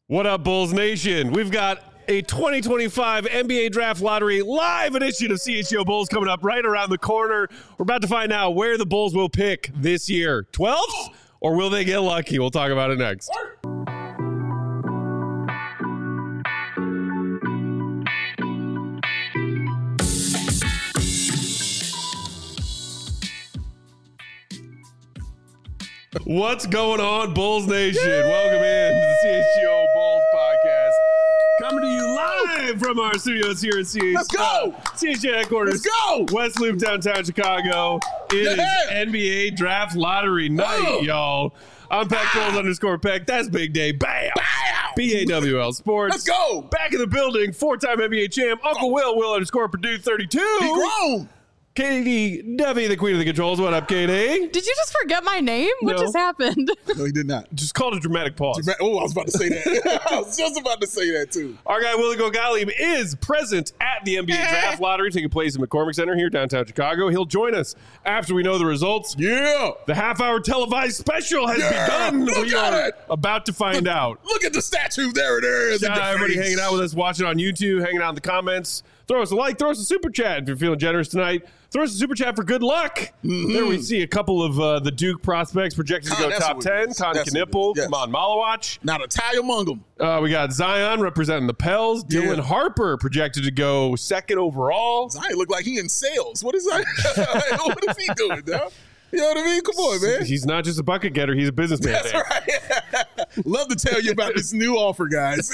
What up, Bulls Nation? We've got a 2025 NBA Draft Lottery live edition of CHGO Bulls coming up right around the corner. We're about to find out where the Bulls will pick this year. 12th? Or will they get lucky? We'll talk about it next. What's going on, Bulls Nation? Welcome in to the CHGO Bulls podcast. Coming to you live from our studios here at CHGO. Let's go! CHGO headquarters. Let's go! West Loop, downtown Chicago. It is NBA Draft Lottery night, y'all. I'm Peck Bulls _Peck. That's Big Day. Bam! BAWL Sports. Let's go! Back in the building, four-time NBA champ, Uncle Will _Purdue 32. He grown. Katie Duffy, the queen of the controls. What up, Katie? Did you just forget my name? What just happened? No, he did not. Just called a dramatic pause. Oh, I was about to say that. I was just about to say that, too. Our guy, Willie Gogali, is present at the NBA Draft Lottery taking place in McCormick Center here, downtown Chicago. He'll join us after we know the results. Yeah. The half-hour televised special has begun. Look We at are it. about to find out. Look at the statue. There it is. Shout out everybody hanging out with us, watching on YouTube, hanging out in the comments. Throw us a like, throw us a super chat if you're feeling generous tonight. Throw us a super chat for good luck. There we see a couple of the Duke prospects projected to go top 10. Con Knipple, Yes. come on, Malawach. Not a tie among them. We got Zion representing the Pels. Yeah. Dylan Harper projected to go second overall. Zion look like he in sales. What is that? What is he doing, dog? You know what I mean? Come on, man. He's not just a bucket getter, he's a businessman. That's right. Love to tell you about this new offer, guys.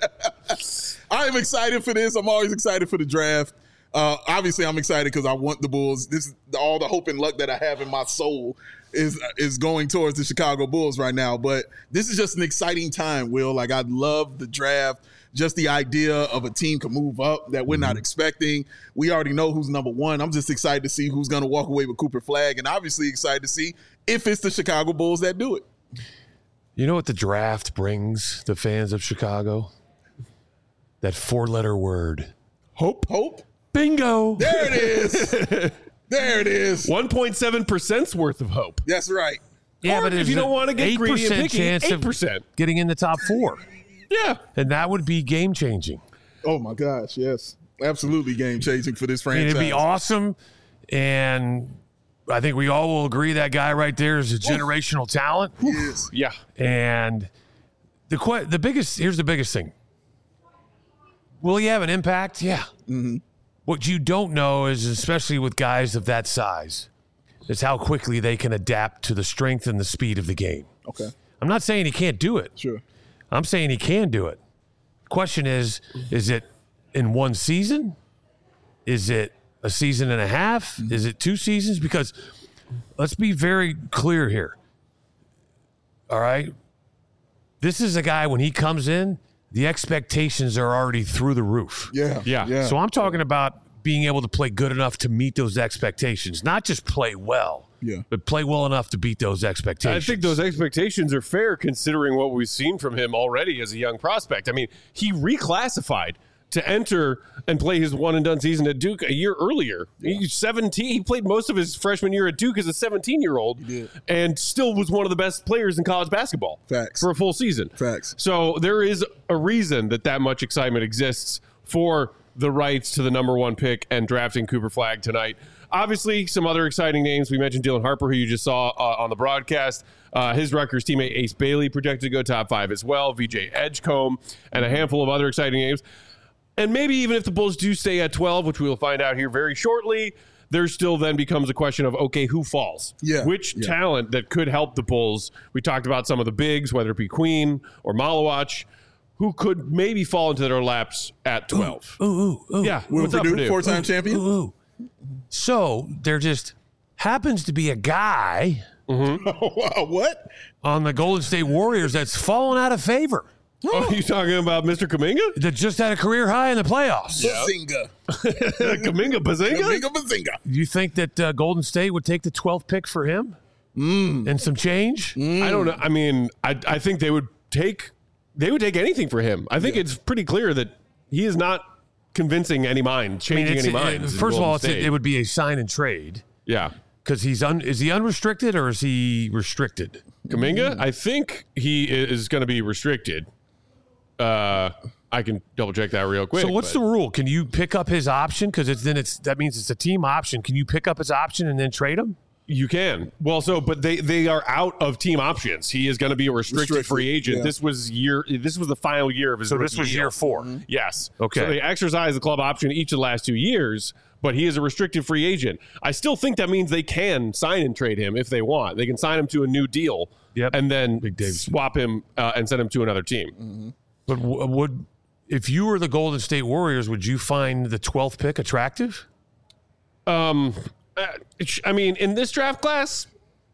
I am excited for this. I'm always excited for the draft. Obviously, I'm excited because I want the Bulls. This is all the hope and luck that I have in my soul is going towards the Chicago Bulls right now. But this is just an exciting time, Will. Like, I love the draft. Just the idea of a team can move up that we're not expecting. We already know who's number one. I'm just excited to see who's going to walk away with Cooper Flagg, and obviously excited to see if it's the Chicago Bulls that do it. You know what the draft brings the fans of Chicago? That four-letter word. Hope. Hope. Bingo. There it is. There it is. 1.7% worth of hope. That's right. Yeah, Or but if you don't want to get greedy and 8% picky, chance 8%. of getting in the top four. Yeah. And that would be game-changing. Oh, my gosh, yes. Absolutely game-changing for this I mean, franchise. it'd be awesome, and I think we all will agree that guy right there is a generational talent. Yes. Yeah. And the biggest thing. Will he have an impact? Yeah. Mm-hmm. What you don't know is, especially with guys of that size, is how quickly they can adapt to the strength and the speed of the game. Okay. I'm not saying he can't do it. Sure. I'm saying he can do it. Question is it in one season? Is it a season and a half? Is it 2 seasons? Because let's be very clear here. All right? This is a guy, when he comes in, the expectations are already through the roof. Yeah. So I'm talking about being able to play good enough to meet those expectations, not just play well, but play well enough to beat those expectations. I think those expectations are fair considering what we've seen from him already as a young prospect. I mean, he reclassified to enter and play his one-and-done season at Duke a year earlier. Yeah. He's 17. He played most of his freshman year at Duke as a 17-year-old and still was one of the best players in college basketball. Facts. For a full season. Facts. So there is a reason that much excitement exists for the rights to the number one pick and drafting Cooper Flagg tonight. Obviously, some other exciting names. We mentioned Dylan Harper, who you just saw on the broadcast. His Rutgers teammate Ace Bailey projected to go top 5 as well. VJ Edgecombe and a handful of other exciting names. And maybe even if the Bulls do stay at 12, which we will find out here very shortly, there still then becomes a question of, okay, who falls? Which talent that could help the Bulls? We talked about some of the bigs, whether it be Queen or Malawach, who could maybe fall into their laps at 12. Ooh. Yeah. Will Purdue, four-time champion? Ooh. So there just happens to be a guy What? on the Golden State Warriors that's fallen out of favor. Oh, you talking about Mr. Kuminga? That just had a career high in the playoffs. Bazinga. Kuminga Bazinga? Kuminga Bazinga. You think that Golden State would take the 12th pick for him? And some change? I don't know. I mean, I think they would take anything for him. I think it's pretty clear that he is not convincing any mind, changing any minds. First of all, it would be a sign and trade. Yeah. Because is he unrestricted or is he restricted? Kuminga, I think he is going to be restricted. I can double check that real quick. So what's the rule? Can you pick up his option? Because that means it's a team option. Can you pick up his option and then trade him? You can. Well, but they are out of team options. He is going to be a restricted free agent. Yeah. This was the final year of his. So this was year 4. Mm-hmm. Yes. Okay. So they exercised the club option each of the last 2 years, but he is a restricted free agent. I still think that means they can sign and trade him if they want. They can sign him to a new deal, and then swap him and send him to another team. Mm-hmm. But if you were the Golden State Warriors, would you find the 12th pick attractive? I mean, in this draft class,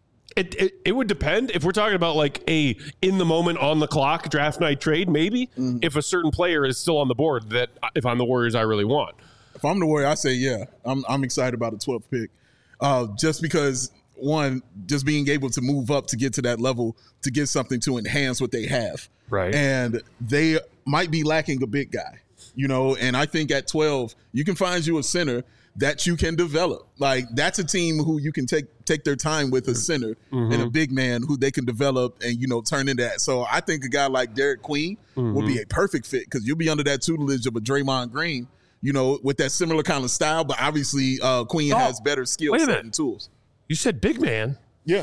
it would depend. If we're talking about like a in the moment on the clock draft night trade, maybe if a certain player is still on the board that if I'm the Warriors, I really want. If I'm the Warrior, I say yeah. I'm excited about the 12th pick, just because one, just being able to move up to get to that level to get something to enhance what they have, right? And they might be lacking a big guy, And I think at 12, you can find you a center that you can develop. Like that's a team who you can take their time with a center and a big man who they can develop and turn into that. So I think a guy like Derek Queen will be a perfect fit because you'll be under that tutelage of a Draymond Green, with that similar kind of style. But obviously Queen has better skill set and tools. You said big man. Yeah.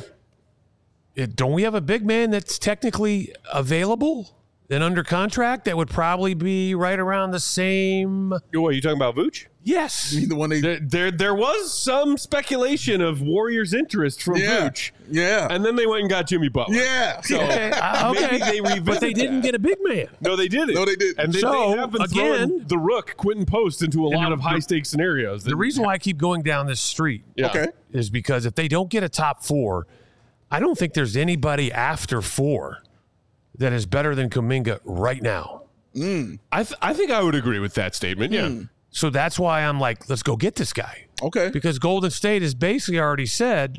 Don't we have a big man that's technically available and under contract that would probably be right around the same? What, are you talking about Vooch? Yes. You mean the one there was some speculation of Warriors' interest from Vooch. Yeah. And then they went and got Jimmy Butler. Yeah. So okay. maybe they revisited but they didn't get a big man. No, they didn't. No, they didn't. And they have been throwing the rook, Quentin Post, into a lot of high-stakes scenarios. The reason why I keep going down this street is because if they don't get a top 4, I don't think there's anybody after 4 that is better than Kuminga right now. I think I would agree with that statement, yeah. So that's why I'm like, let's go get this guy. Okay. Because Golden State has basically already said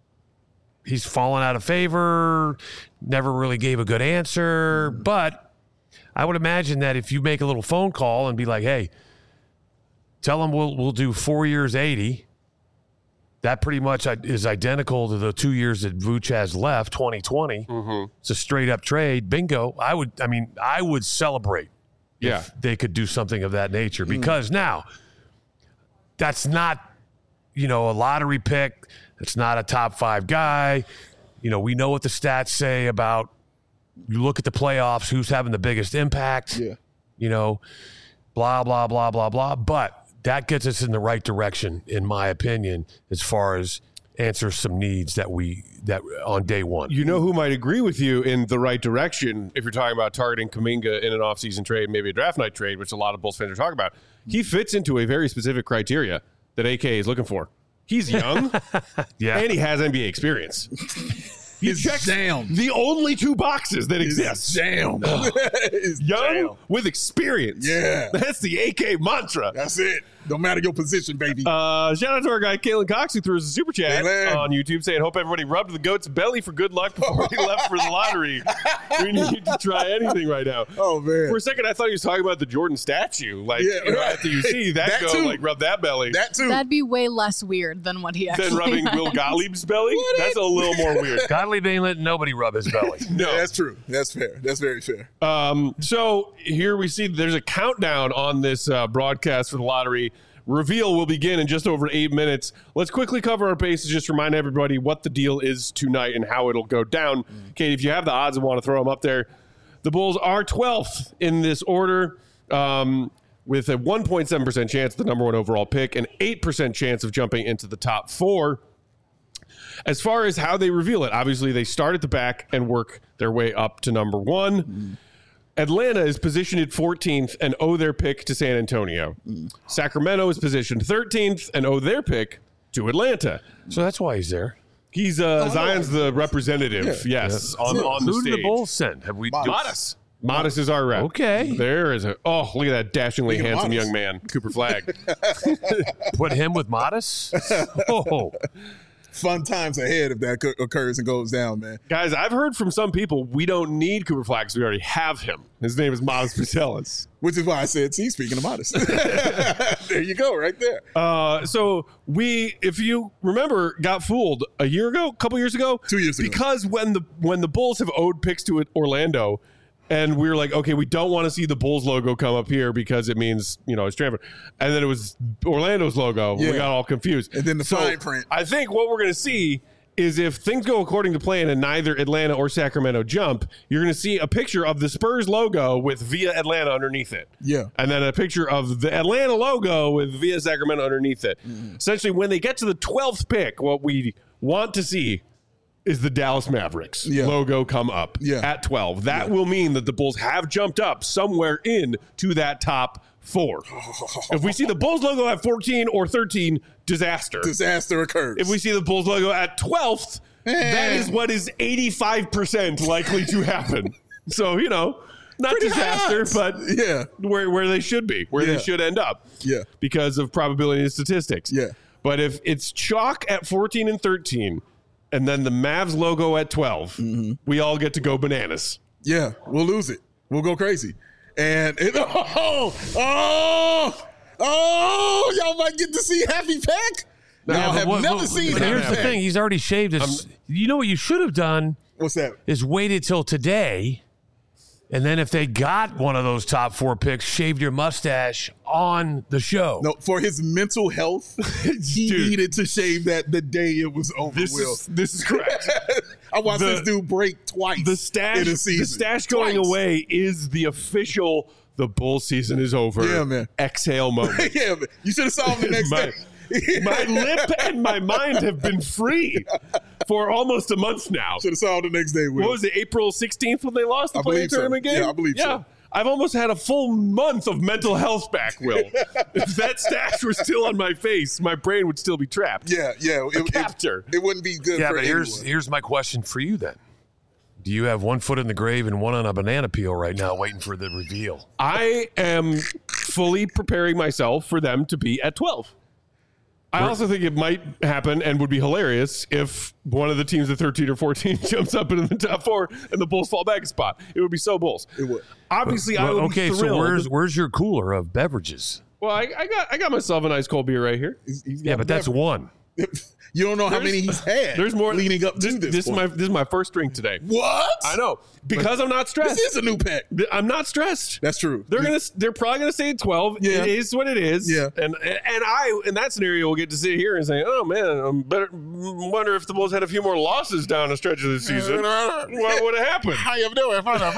he's fallen out of favor, never really gave a good answer. But I would imagine that if you make a little phone call and be like, hey, tell him we'll do 4 years, 80. That pretty much is identical to the 2 years that Vooch has left, 2020. It's a straight up trade. Bingo. I would celebrate if they could do something of that nature because now that's not, a lottery pick. It's not a top 5 guy. We know what the stats say about you look at the playoffs, who's having the biggest impact, blah, blah, blah, blah, blah. But that gets us in the right direction, in my opinion, as far as answers some needs that on day one. You know who might agree with you in the right direction if you're talking about targeting Kuminga in an offseason trade, maybe a draft night trade, which a lot of Bulls fans are talking about. He fits into a very specific criteria that AK is looking for. He's young, and he has NBA experience. He checks the only 2 boxes that exist. Young with experience. Yeah. That's the AK mantra. That's it. No matter your position, baby. Shout out to our guy, Kalen Cox, who threw us a super chat on YouTube saying, hope everybody rubbed the goat's belly for good luck before he left for the lottery. We need to try anything right now. Oh, man. For a second, I thought he was talking about the Jordan statue. Like, after you see that go, too. like, rub that belly. That too. That'd be way less weird than what he actually Than rubbing has. Will Gottlieb's belly? That's a little more weird. Gottlieb ain't letting nobody rub his belly. No. Yeah, that's true. That's fair. That's very fair. So here we see there's a countdown on this broadcast for the lottery. Reveal will begin in just over 8 minutes. Let's quickly cover our bases, just remind everybody what the deal is tonight and how it'll go down. Kate, if you have the odds and want to throw them up there, the Bulls are 12th in this order with a 1.7% chance at the number 1 overall pick, an 8% chance of jumping into the top 4. As far as how they reveal it, obviously they start at the back and work their way up to number 1. Atlanta is positioned at 14th and owe their pick to San Antonio. Sacramento is positioned 13th and owe their pick to Atlanta. So that's why he's there. He's Zion's the representative, on the Who stage. did the Bulls send? Have we? Modest. Modest is our rep. Okay. There is look at that dashingly handsome young man, Cooper Flagg. Put him with Modest? Oh. Fun times ahead if that occurs and goes down, man. Guys, I've heard from some people we don't need Cooper Flagg because we already have him. His name is Modest Pucelis. Which is why I said, see, speaking of Modest. There you go, right there. So we, if you remember, got fooled a year ago, a couple years ago. 2 years ago. Because when the Bulls have owed picks to Orlando, And we were like, okay, we don't want to see the Bulls logo come up here because it means, it's transfer. And then it was Orlando's logo. Yeah. We got all confused. And then the fine print. I think what we're going to see is if things go according to plan and neither Atlanta or Sacramento jump, you're going to see a picture of the Spurs logo with Via Atlanta underneath it. Yeah. And then a picture of the Atlanta logo with Via Sacramento underneath it. Mm-hmm. Essentially, when they get to the 12th pick, what we want to see is the Dallas Mavericks logo come up at 12. That will mean that the Bulls have jumped up somewhere into that top 4. If we see the Bulls logo at 14 or 13, disaster. Disaster occurs. If we see the Bulls logo at 12th, that is what is 85% likely to happen. So, not Pretty disaster, hot. but where they should be, where they should end up. Yeah. Because of probability and statistics. Yeah. But if it's chalk at 14 and 13, and then the Mavs logo at 12, we all get to go bananas. Yeah, we'll lose it. We'll go crazy. And y'all might get to see Happy Pack. Y'all have never seen Happy Here's Pack. the thing. He's already shaved his. You know what you should have done? What's that? Is waited till today. And then if they got one of those top 4 picks, shaved your mustache on the show. No, for his mental health, he needed to shave that the day it was over. This is correct. I watched this dude break twice. The stash, in a season. The stash going away is the official. The Bull season is over. Yeah, man. Exhale moment. Yeah, man. You should have saw him the next day. My lip and my mind have been free for almost a month now. Should have saw him the next day. Will. What was it, April 16th when they lost the play-in tournament game? Yeah, I believe so. I've almost had a full month of mental health back, Will. If that stash were still on my face, my brain would still be trapped. Yeah. It wouldn't be good for but anyone. here's my question for you then. Do you have one foot in the grave and one on a banana peel right now waiting for the reveal? I am fully preparing myself for them to be at 12. I also think it might happen and would be hilarious if one of the teams at 13 or 14 jumps up into the top 4 and the Bulls fall back a spot. It would be so Bulls. It would. Obviously, I would be thrilled. So where's your cooler of beverages? Well, I got myself an ice cold beer right here. Yeah, but that's one. You don't know how many he's had. There's more leading up to this. This is my first drink today. What? I know, because I'm not stressed. This is a new pack. I'm not stressed. That's true. They're probably gonna say 12. Yeah. It is what it is. Yeah. And I in that scenario will get to sit here and say, oh man, wonder if the Bulls had a few more losses down the stretch of the season. What would have happened? How you doing?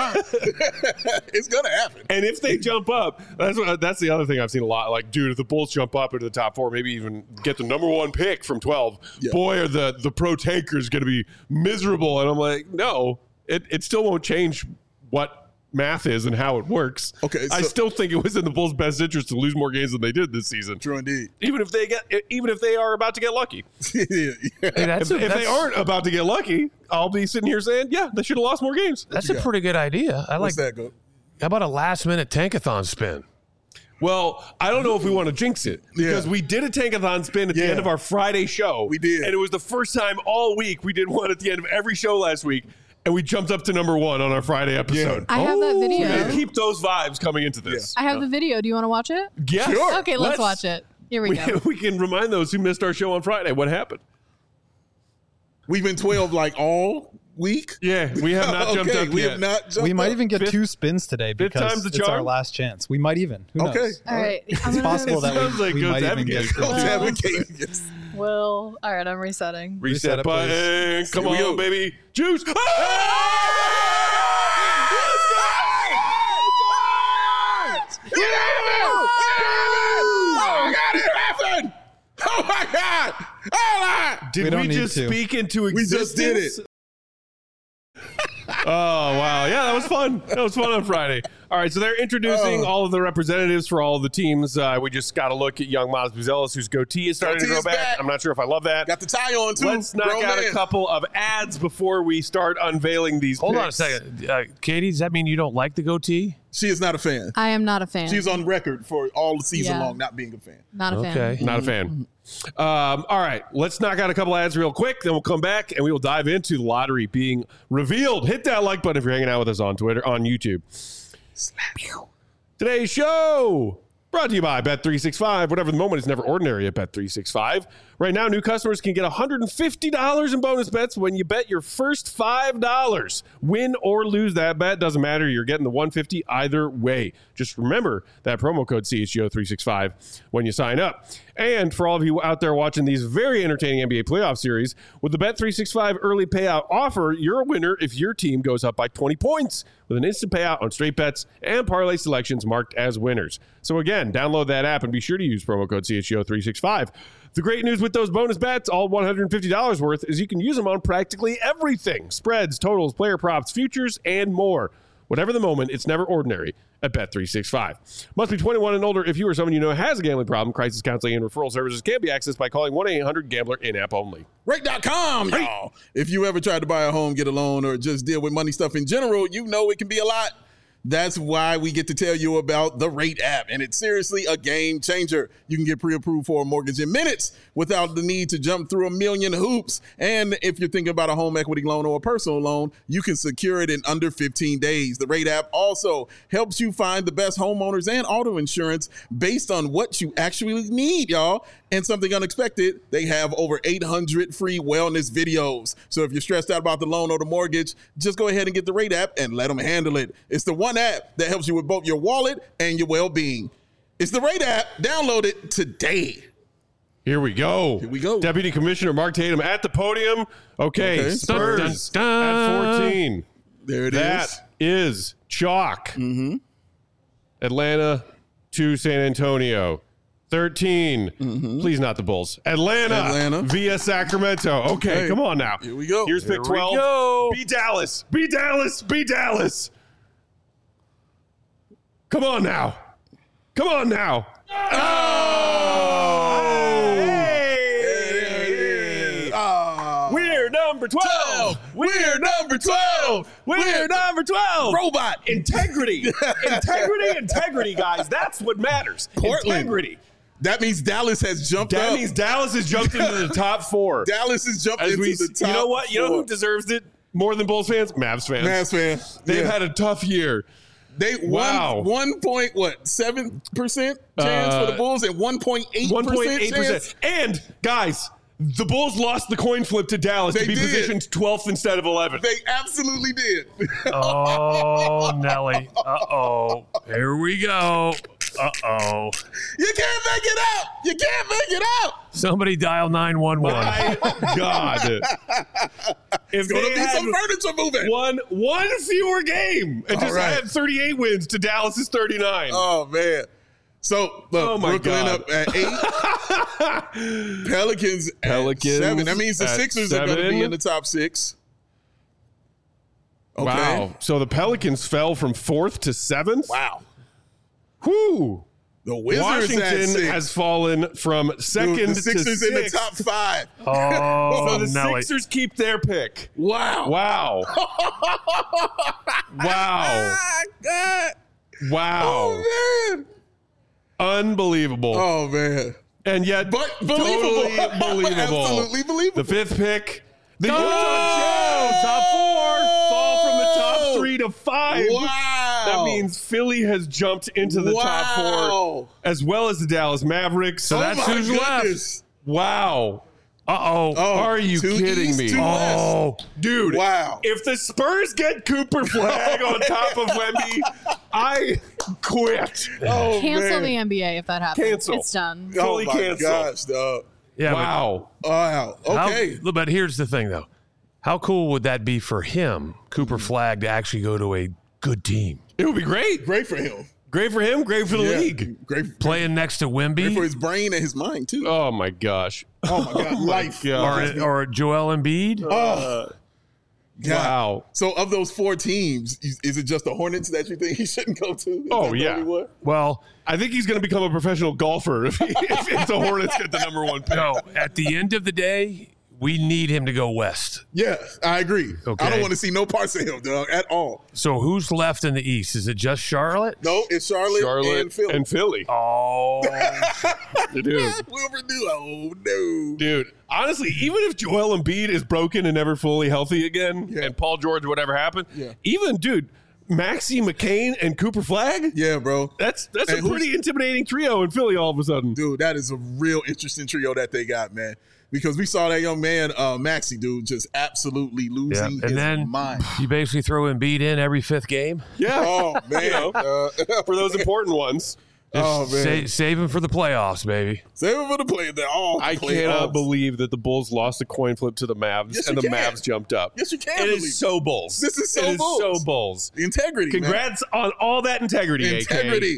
It's gonna happen. And if they jump up, that's the other thing I've seen a lot. Like, dude, if the Bulls jump up into the top 4, maybe even get the number 1 pick from 12, boy, are the pro tankers going to be miserable. And I'm like, no, it still won't change what math is and how it works. Okay, I still think it was in the Bulls' best interest to lose more games than they did this season. True indeed. Even if they are about to get lucky. Yeah. If they aren't about to get lucky, I'll be sitting here saying, yeah, they should have lost more games. That's a pretty good idea. I What's like that, go? How about a last-minute tankathon spin? Well, I don't know if we want to jinx it because we did a tankathon spin at the end of our Friday show. We did. And it was the first time all week we did one at the end of every show last week. And we jumped up to number 1 on our Friday episode. I have that video. And keep those vibes coming into this. I have the video. Do you want to watch it? Yes. Sure. Okay, let's watch it. Here we go. We can remind those who missed our show on Friday what happened. We've been 12 like all week. Yeah, we have not jumped up we yet. have not jumped We might up. even get 2 spins today because time's the it's our charm? last chance. We might even. Who knows? Okay. All right. It's possible that Sounds like we Goats might even Advocate. get. Coach advocate. Yes. Will. All right, I'm resetting. Reset it, button. please. Come Here we on, go. baby. Juice. Oh my God! Oh my! Did We don't we need just to. speak into We existence? just did it. Oh, wow. Yeah, that was fun. That was fun on Friday. All right, so they're introducing all of the representatives for all of the teams. We just got to look at young Miles Buzelis, whose goatee is starting to Goatee grow is back. back. I'm not sure if I love that. Got the tie on too. Let's knock Grown out man. a couple of ads before we start unveiling these Hold on a picks. second. Katie, does that mean you don't like the goatee? She is not a fan. I am not a fan. She's on record for all the season Yeah. long not being a fan. not a fan. Okay. Not a fan. All right, let's knock out a couple ads real quick. Then we'll come back and we will dive into the lottery being revealed. Hit that like button if you're hanging out with us on Twitter, on YouTube. Today's show Brought to you by Bet365. Whatever the moment is never ordinary at Bet365. Right now, new customers can get $150 in bonus bets when you bet your first $5. Win or lose that bet, doesn't matter. You're getting the $150 either way. Just remember that promo code CHGO365 when you sign up. And for all of you out there watching these very entertaining NBA playoff series, with the Bet365 early payout offer, you're a winner if your team goes up by 20 points with an instant payout on straight bets and parlay selections marked as winners. So again, download that app and be sure to use promo code CHGO365. The great news with those bonus bets, all $150 worth, is you can use them on practically everything. Spreads, totals, player props, futures, and more. Whatever the moment, it's never ordinary at Bet365. Must be 21 and older if you or someone you know has a gambling problem. Crisis counseling and referral services can be accessed by calling 1-800-GAMBLER in-app only. Rate.com, y'all. If you ever tried to buy a home, get a loan, or just deal with money stuff in general, you know it can be a lot. That's why we get to tell you about the Rate app, and it's seriously a game changer. You can get pre-approved for a mortgage in minutes without the need to jump through a million hoops. And if you're thinking about a home equity loan or a personal loan, you can secure it in under 15 days. The Rate app also helps you find the best homeowners and auto insurance based on what you actually need, y'all. And something unexpected, they have over 800 free wellness videos. So if you're stressed out about the loan or the mortgage, just go ahead and get the Rate app and let them handle it. It's the one app that helps you with both your wallet and your well-being. It's the Rate app. Download it today. Here we go. Here we go. Deputy Commissioner Mark Tatum at the podium. Okay. Spurs Dun, dun, dun. at 14. There it is. That is chalk. Atlanta to San Antonio. 13. Please not the Bulls. Atlanta via Sacramento. Okay, come on now. Here we go. Here's pick 12. we go. Be Dallas. Be Dallas. Be Dallas. Come on now. Come on now. Oh! Hey! We're number 12. We're number 12. We're number 12. Robot. Integrity. Integrity, guys. That's what matters. Portland. Integrity. That means Dallas has jumped up. That means Dallas has jumped into the top 4. Dallas has jumped into the top. You know what? You know 4. who deserves it more than Bulls fans? Mavs fans. Mavs fan. They've had a tough year. They won 1.7% chance for the Bulls and 1.8% chance. And guys, the Bulls lost the coin flip to Dallas to be positioned 12th instead of 11th. They absolutely did. Oh, Nelly. Uh-oh. Here we go. Uh-oh. You can't make it out. You can't make it out. Somebody dial 911. My God. If Gonna they be had some furniture moving. one fewer game and just had 38 wins to Dallas's 39. Oh, man. So, look, Brooklyn God. up at 8. Pelicans at 7. That means the Sixers are going to be in the top 6. Okay. Wow. So the Pelicans fell from 4th to 7th? Wow. Whew. The Wizards Washington has fallen from 2nd the to Sixers 6th. in the top 5. Oh, So the Nelly. Sixers keep their pick. Wow. Wow. Wow. God. Wow. Oh, man. Unbelievable. Oh, man. And yet, But believable. totally believable. Absolutely believable. The 5th pick. The Go! Utah Jazz, top 4, fall from the top 3 to 5. Wow. That means Philly has jumped into the top 4, as well as the Dallas Mavericks. So that's who's left. Wow. Uh-oh. Are you 2 kidding East, me? 2 West. Oh. Dude, Wow. if the Spurs get Cooper Flag on top of Wemby, I quit. Oh, Cancel man. the NBA if that happens. Cancel. It's done. Oh, fully my canceled. gosh, dog. Yeah, but Wow. Wow. Okay. But here's the thing, though. How cool would that be for him, Cooper Flag, to actually go to a good team? It would be great. Great for him. Great for him, great for the league. Great Playing next to for Wemby his brain and his mind, too. Oh, my gosh. Oh, my God. Life. God. or Joel Embiid. Oh. God. Wow. So, of those 4 teams, is it just the Hornets that you think he shouldn't go to? Is Oh, that the yeah. only one? Well, I think he's going to become a professional golfer if the Hornets get the number 1 pick. no, at the end of the day, we need him to go west. Yeah, I agree. Okay. I don't want to see no parts of him, dog, at all. So who's left in the East? Is it just Charlotte? No, it's Charlotte and Philly. Oh, Dude. Wilbur do. Oh, no. Dude, honestly, even if Joel Embiid is broken and never fully healthy again, and Paul George, whatever happened, even, dude, Maxey, McCain, and Cooper Flag? Yeah, bro. That's And a pretty intimidating trio in Philly all of a sudden. Dude, that is a real interesting trio that they got, man. Because we saw that young man, Maxey, dude, just absolutely losing And his then mind. you basically throw Embiid in every 5th game. Yeah. Oh, man. For those important ones. Oh, man. Save him for the playoffs, baby. Save him for the play. I cannot believe that the Bulls lost a coin flip to the Mavs Yes, and you the can. Mavs jumped up. Yes, you can It believe. is so Bulls. This is so It Bulls. so Bulls. Integrity, Congrats on all that integrity, AK. Integrity.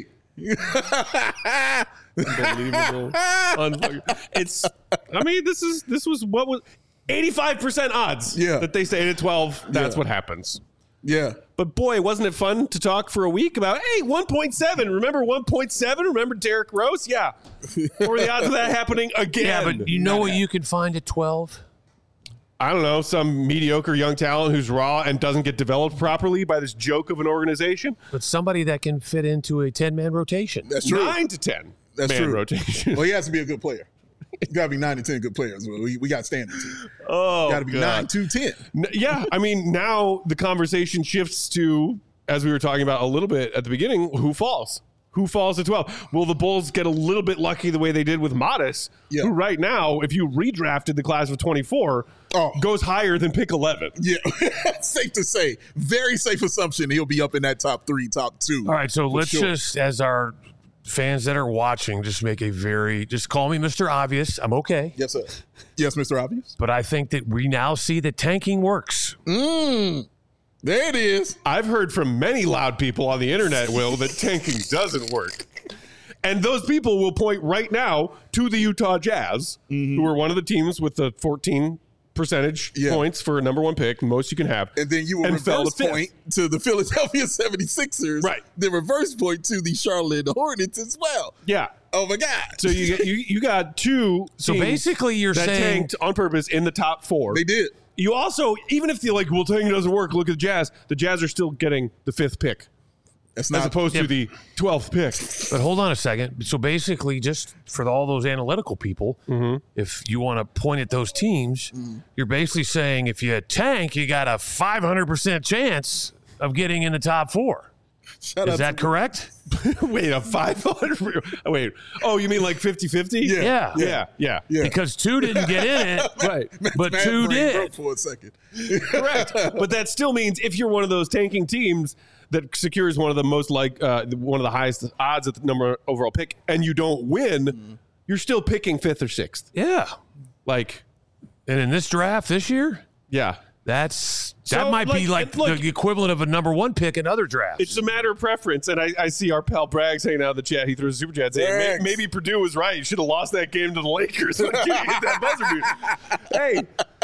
Unbelievable. It's. I mean, this was what was 85% odds. Yeah. That they stayed at 12. That's Yeah. what happens. Yeah. But boy, wasn't it fun to talk for a week about, hey, 1.7. Remember 1.7? Remember Derrick Rose? Yeah. What were the odds of that happening again? Yeah, but you know what you can find at 12? I don't know, some mediocre young talent who's raw and doesn't get developed properly by this joke of an organization. But somebody that can fit into a 10-man rotation. That's true. 9 to 10 That's man true. rotation. Well, he has to be a good player. You got to be 9 to 10 good players. We got standards here. Oh, Got to be God. 9 to 10. Yeah, I mean, now the conversation shifts to, as we were talking about a little bit at the beginning, who falls? Who falls at 12? Will the Bulls get a little bit lucky the way they did with Modest, Yeah. who right now, if you redrafted the class of 24, goes higher than pick 11? Yeah, safe to say. Very safe assumption he'll be up in that top 3, top 2. All right, so For let's sure. just, as our fans that are watching, just just call me Mr. Obvious. I'm okay. Yes, sir. Yes, Mr. Obvious. But I think that we now see that tanking works. There it is. I've heard from many loud people on the internet, Will, that tanking doesn't work. And those people will point right now to the Utah Jazz, who are one of the teams with the 14 percentage points for a number 1 pick, most you can have. And then you will fell reverse to fifth. point to the Philadelphia 76ers. Right. The reverse point to the Charlotte Hornets as well. Yeah. Oh, my God. So you got two So teams basically you're that saying tanked on purpose in the top 4. They did. You also, even if well, tanking doesn't work, look at the Jazz are still getting the 5th pick That's as not opposed to the 12th pick. But hold on a second. So basically, just for all those analytical people, if you want to point at those teams, you're basically saying if you tank, you got a 500% chance of getting in the top 4. Shout Is out that to correct? Wait, a 500? Wait. Oh, you mean like 50-50? Yeah. Yeah. Because 2 didn't get in it, Right. but Mad 2 brain did. broke for a second. Correct. But that still means if you're one of those tanking teams that secures one of the most one of the highest odds at the number overall pick, and you don't win, you're still picking 5th or 6th. Yeah. Like, And in this draft this year, yeah. that So, might be like look, the equivalent of a number 1 pick in other drafts. It's a matter of preference, and I see our pal Braggs hanging out in the chat. He throws a super chat saying, Braggs. maybe Purdue was right. You should have lost that game to the Lakers. When you hit that buzzer beater. Hey,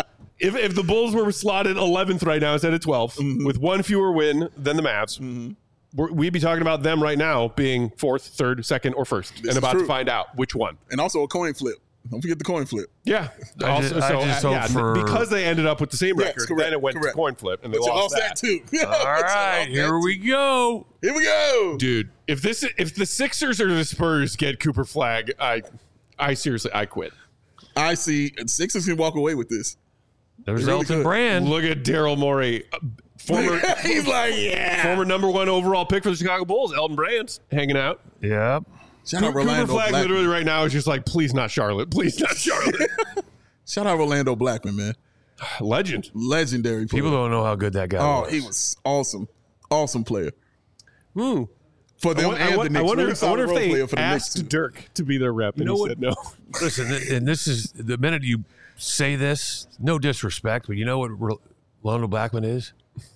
if the Bulls were slotted 11th right now instead of 12th, with one fewer win than the Mavs, we'd be talking about them right now being 4th, 3rd, 2nd, or 1st, and about true. to find out which one. And also a coin flip. Don't forget the coin flip. Yeah. I just hope for- because they ended up with the same Yes, record, correct, then it went correct. to coin flip, and they But you lost lost that too. All right, here we go. Here we go. Dude, if the Sixers or the Spurs get Cooper Flag, I seriously, I quit. I see Sixers can walk away with this. There's really Elton could. Brand. Look at Daryl Morey, former He's like, yeah. former number 1 overall pick for the Chicago Bulls, Elton Brand, hanging out. Yep. Shout out Cooper Orlando Flag Blackman. literally right now is just like, please not Charlotte, please not Charlotte. Shout out Orlando Blackman, man. Legend. Legendary player. People don't know how good that guy Oh, was. he was awesome. Awesome player. Hmm. For them and the Knicks. I wonder Really solid if role they player for the Knicks, asked too. Dirk to be their rep, and know he what? said no. Listen, and this is the minute you say this, no disrespect, but you know what Orlando Blackman is?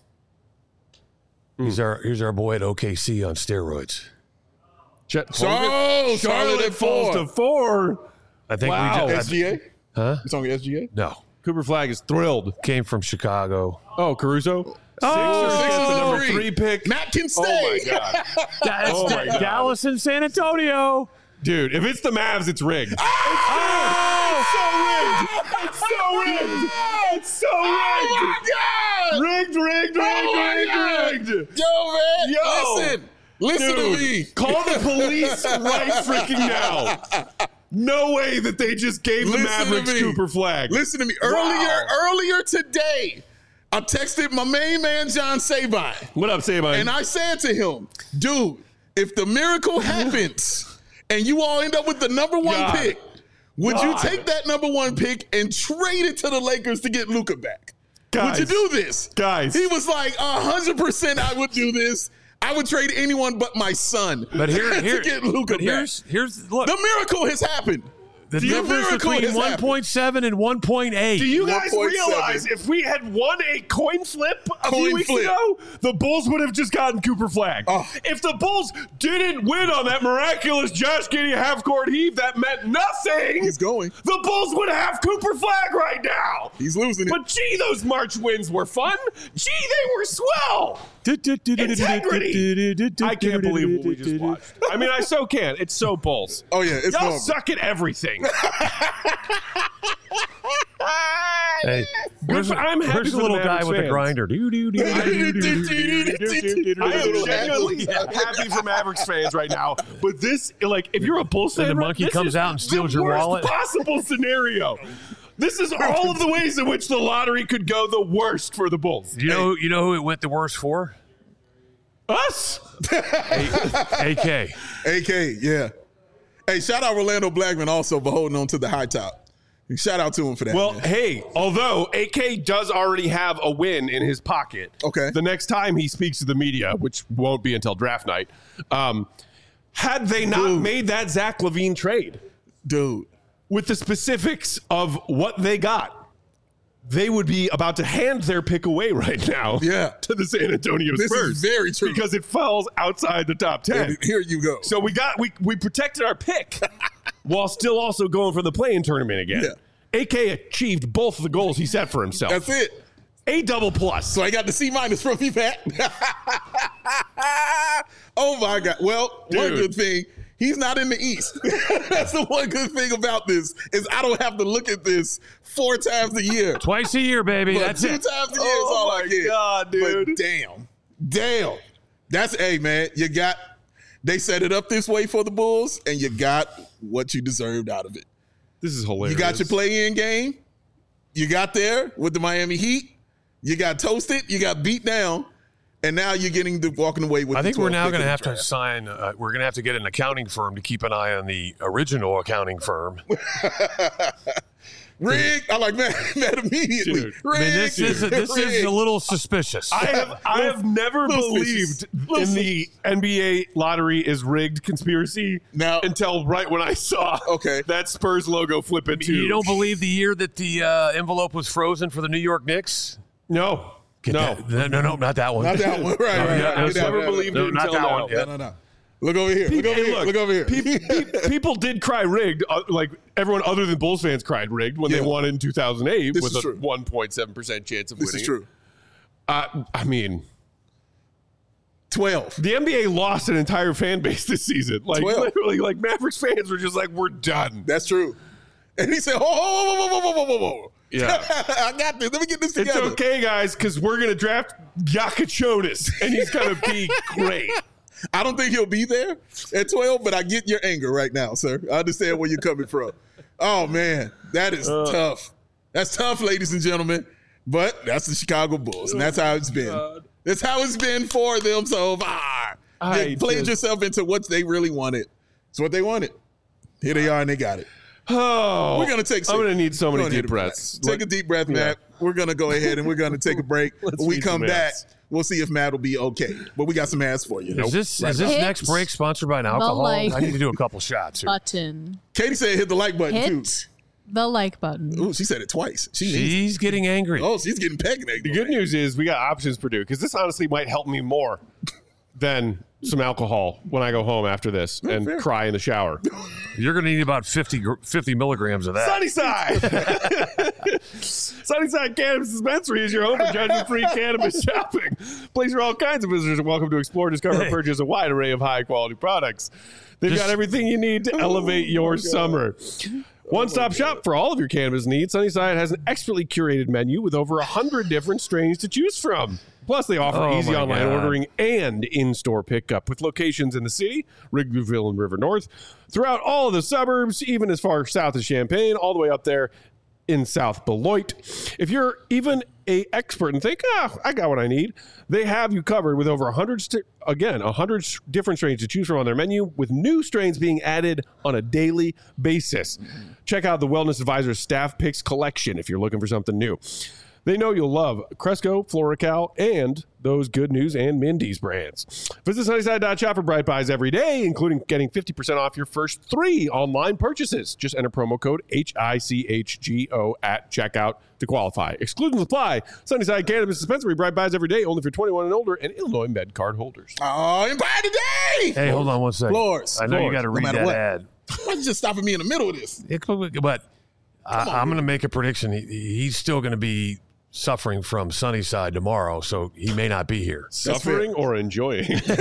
He's our boy at OKC on steroids. Charlotte at falls 4. to 4. I think Wow. we just SGA? huh? It's on the SGA? No, Cooper Flag is thrilled. came from Chicago. Oh, Caruso. Oh! Sixers get the number Sixers 3 pick. Matt can stay. Oh my god, That's Oh my God. Dallas and San Antonio. dude! If it's the Mavs, it's rigged. It's so rigged. It's so rigged. Oh, Rigged, rigged, rigged. Yo, man. Yo. Listen to Dude, me. call the police right freaking now. No way that they just gave the Listen to Mavericks me. Cooper Flag. Listen to me. Wow. Earlier today, I texted my main man, John Sabine. What up, Sabine? And I said to him, dude, if the miracle happens and you all end up with the number one God. pick, would God. you take that number one pick and trade it to the Lakers to get Luka back? Guys. Would you do this? Guys. He was like, 100% I would do this. I would trade anyone but my son But here, to get Luka but back. here's look. The miracle has happened. The The difference miracle between has happened. 1.7 and 1.8. Do you guys 1.7. realize if we had won a coin flip a Coin few weeks flip. ago, the Bulls would have just gotten Cooper Flag? Oh. If the Bulls didn't win on that miraculous Josh Giddey half-court heave that meant nothing, He's going. the Bulls would have Cooper Flag right now. He's losing it. But gee, those March wins were fun. Gee, they were swell. Integrity. I can't believe what we just watched. I mean, I so can. It's so Bulls. Oh, yeah. It's Y'all normal. suck at everything. Hey, where's, I'm happy where's for the little the guy Mavericks with the fans. grinder? I am genuinely happy for Mavericks fans right now. But this, like, if you're a Bulls fan, the monkey this comes is out and steals the your worst wallet. possible scenario. This is all of the ways in which the lottery could go the worst for the Bulls. You know who it went the worst for? Us. AK. AK, yeah. Hey, shout out Orlando Blackman also for holding on to the high top. Shout out to him for that. Well, man. hey, although AK does already have a win in his pocket, Okay. the next time he speaks to the media, which won't be until draft night, had they not made that Zach LaVine trade Dude. with the specifics of what they got, they would be about to hand their pick away right now Yeah. to the San Antonio This Spurs. is very true. Because it falls outside the top 10. And here you go. So we protected our pick while still also going for the play-in tournament again. Yeah. AK achieved both of the goals he set for himself. That's it. A double plus. So I got the C- from you, Pat. Oh, my God. Well, one Dude. good thing, he's not in the East. That's the one good thing about this is I don't have to look at this 4 times a year. Twice a year, baby. But That's 2 it. times a year is all I my get. God, dude. But damn. That's, hey, man, they set it up this way for the Bulls, and you got what you deserved out of it. This is hilarious. You got your play-in game. You got there with the Miami Heat. You got toasted. You got beat down. And now you're walking away with I think the we're 12th now pick going to in the have to draft. sign. We're going to have to get an accounting firm to keep an eye on the original accounting firm. Rig. I like that immediately. Dude. Rig. I mean, this is Rig. a little suspicious. I have never little believed suspicious. in the NBA lottery is rigged conspiracy Now- until right when I saw Okay. that Spurs logo flip into. You don't believe the year that the envelope was frozen for the New York Knicks? No. No. No, not that one. Not that one. Right. I've never believed No, it not until that now. one. Yeah. No. Look over here. Look over Hey, here. Look over here. People did cry rigged. Like everyone other than Bulls fans cried rigged when Yeah. they won in 2008 This with is a true. 1.7% chance of This winning. is true. I mean, 12. the NBA lost an entire fan base this season. Like 12. literally, like Mavericks fans were just like, we're done. That's true. And he said, whoa. Yeah. I got this. Let me get this It's together. okay, guys, because we're going to draft Yakachonis, and he's going to be great. I don't think he'll be there at 12, but I get your anger right now, sir. I understand where you're coming from. Oh, man. That is tough. That's tough, ladies and gentlemen. But that's the Chicago Bulls, and that's how it's been. God. That's how it's been for them so far. You played yourself into what they really wanted. It's what they wanted. Here they are, and they got it. Oh, We're going to take I'm going to need so We're many gonna deep need a breaths. Take a deep breath, Matt. We're going to go ahead and we're going to take a break. Let's When we need come some back, ads. we'll see if Matt will be okay. But we got some ads for you. Is this Hit next break sponsored by an alcohol? like I need to do a couple shots here. Button. Katie said hit the like button, too. Hit the like button. Ooh, she said it twice. She needs it. She's getting angry. Oh, she's getting pegged. The good news is we got options, Purdue, because this honestly might help me more than some alcohol when I go home after this and fair. cry in the shower. You're going to need about 50 milligrams of that. Sunnyside! Sunnyside Cannabis Dispensary is your home for judgment-free cannabis shopping. Place where all kinds of visitors are welcome to explore, discover, and purchase a wide array of high-quality products. They've got everything you need to elevate your summer. One-stop shop for all of your cannabis needs. Sunnyside has an expertly curated menu with over 100 different strains to choose from. Plus, they offer Oh easy my online God. ordering and in-store pickup with locations in the city, Wrigleyville and River North, throughout all of the suburbs, even as far south as Champaign, all the way up there in South Beloit. If you're even a expert and think, I got what I need, they have you covered with over 100 different strains to choose from on their menu, with new strains being added on a daily basis. Check out the Wellness Advisors Staff Picks collection if you're looking for something new. They know you'll love Cresco, Floracal, and those Good News and Mindy's brands. Visit Sunnyside.shop for Bright Buys every day, including getting 50% off your first 3 online purchases. Just enter promo code HICHGO at checkout to qualify. Exclusions apply. Sunnyside Cannabis Dispensary, Bright Buys every day, only for 21 and older, and Illinois Med card holders. Oh, Empire Today! Hey, hold on one second. Floors. I know you got to read matter that what. ad. Why you just stopping me in the middle of this? But I'm going to make a prediction. He's still going to be suffering from Sunnyside tomorrow, so he may not be here. Suffering or enjoying?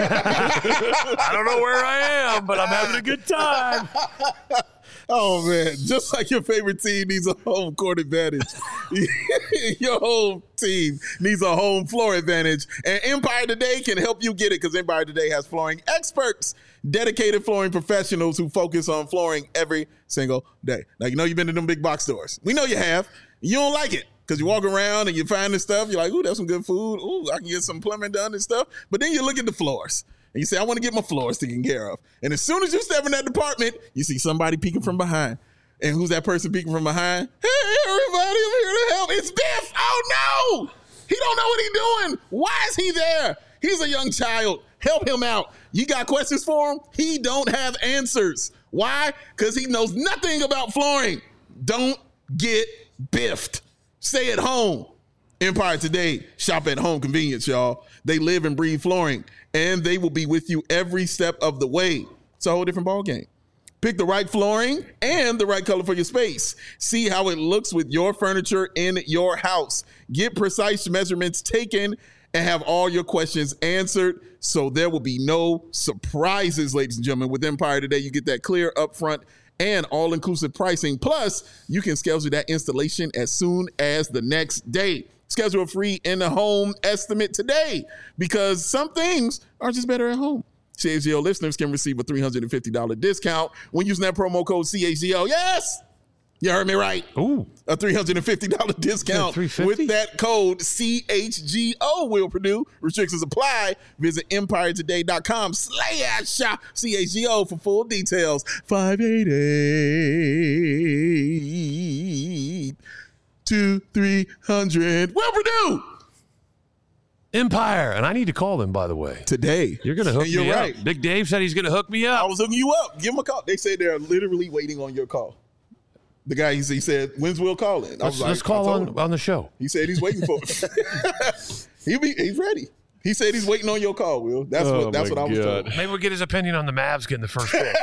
I don't know where I am, but I'm having a good time. Oh, man. Just like your favorite team needs a home court advantage, your whole team needs a home floor advantage. And Empire Today can help you get it, because Empire Today has flooring experts, dedicated flooring professionals who focus on flooring every single day. Now, you know you've been to them big box stores. We know you have. You don't like it, because you walk around and you find this stuff. You're like, ooh, that's some good food. Ooh, I can get some plumbing done and stuff. But then you look at the floors. And you say, I want to get my floors taken care of. And as soon as you step in that department, you see somebody peeking from behind. And who's that person peeking from behind? Hey, everybody, I'm here to help. It's Biff. Oh, no. He don't know what he's doing. Why is he there? He's a young child. Help him out. You got questions for him? He don't have answers. Why? Because he knows nothing about flooring. Don't get biffed. Stay at home. Empire Today. Shop at home convenience, y'all. They live and breathe flooring, and they will be with you every step of the way. It's a whole different ballgame. Pick the right flooring and the right color for your space. See how it looks with your furniture in your house. Get precise measurements taken and have all your questions answered, so there will be no surprises, ladies and gentlemen. With Empire Today, you get that clear, upfront, and all-inclusive pricing. Plus, you can schedule that installation as soon as the next day. Schedule a free in-the-home estimate today, because some things are just better at home. CHGO listeners can receive a $350 discount when using that promo code CHGO. Yes! You heard me right. Ooh. A $350 discount with that code CHGO will Purdue. Restrictions apply. Visit EmpireToday.com/shop CHGO for full details. 588-2300. Will Purdue. Empire. And I need to call them, by the way. Today. You're going to hook And you're me right. up. Big Dave said he's going to hook me I up. was hooking you up. Give them a call. They say they're literally waiting on your call. The guy, he said, when's Will calling? Let's call on the show. He said he's waiting for it. He's ready. He said he's waiting on your call, Will. That's what I was told. Maybe we'll get his opinion on the Mavs getting the first pick.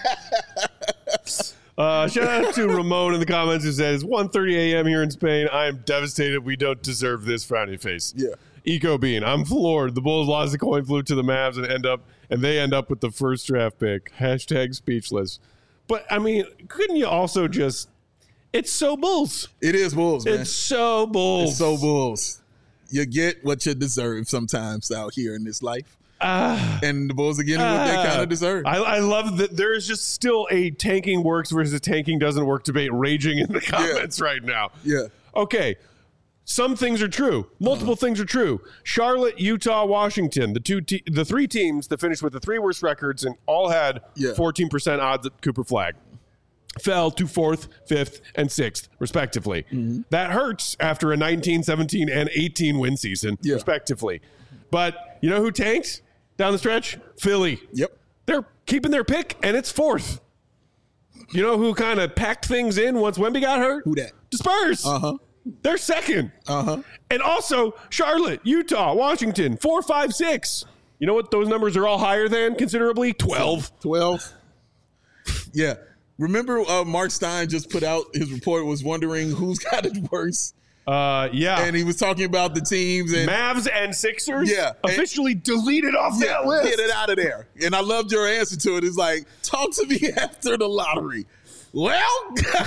Shout out to Ramon in the comments who says, 1:30 a.m. here in Spain. I am devastated. We don't deserve this frowny face. Yeah. Eco Bean, I'm floored. The Bulls lost the coin flip to the Mavs and they end up with the first draft pick. # speechless. But I mean, couldn't you also just? It's so Bulls. It is Bulls, man. It's so Bulls. It's so Bulls. You get what you deserve sometimes out here in this life. And the Bulls are getting what they kind of deserve. I love that there is just still a tanking works versus tanking doesn't work debate raging in the comments right now. Yeah. Okay. Some things are true. Multiple things are true. Charlotte, Utah, Washington, the 3 teams that finished with the 3 worst records and all had 14% odds at Cooper Flag, fell to 4th, 5th, and 6th, respectively. That hurts after a 19, 17, and 18 win season, respectively. But you know who tanked down the stretch? Philly. Yep. They're keeping their pick, and it's 4th. You know who kind of packed things in once Wemby got hurt? Who that? The Spurs. They're 2nd. And also Charlotte, Utah, Washington, 4, 5, 6. You know what? Those numbers are all higher than considerably 12. 12. Yeah. Remember Mark Stein just put out his report, was wondering who's got it worse. Yeah. And he was talking about the teams and Mavs and Sixers officially and, deleted off that list. Get it out of there. And I loved your answer to it. It's like, talk to me after the lottery. Well,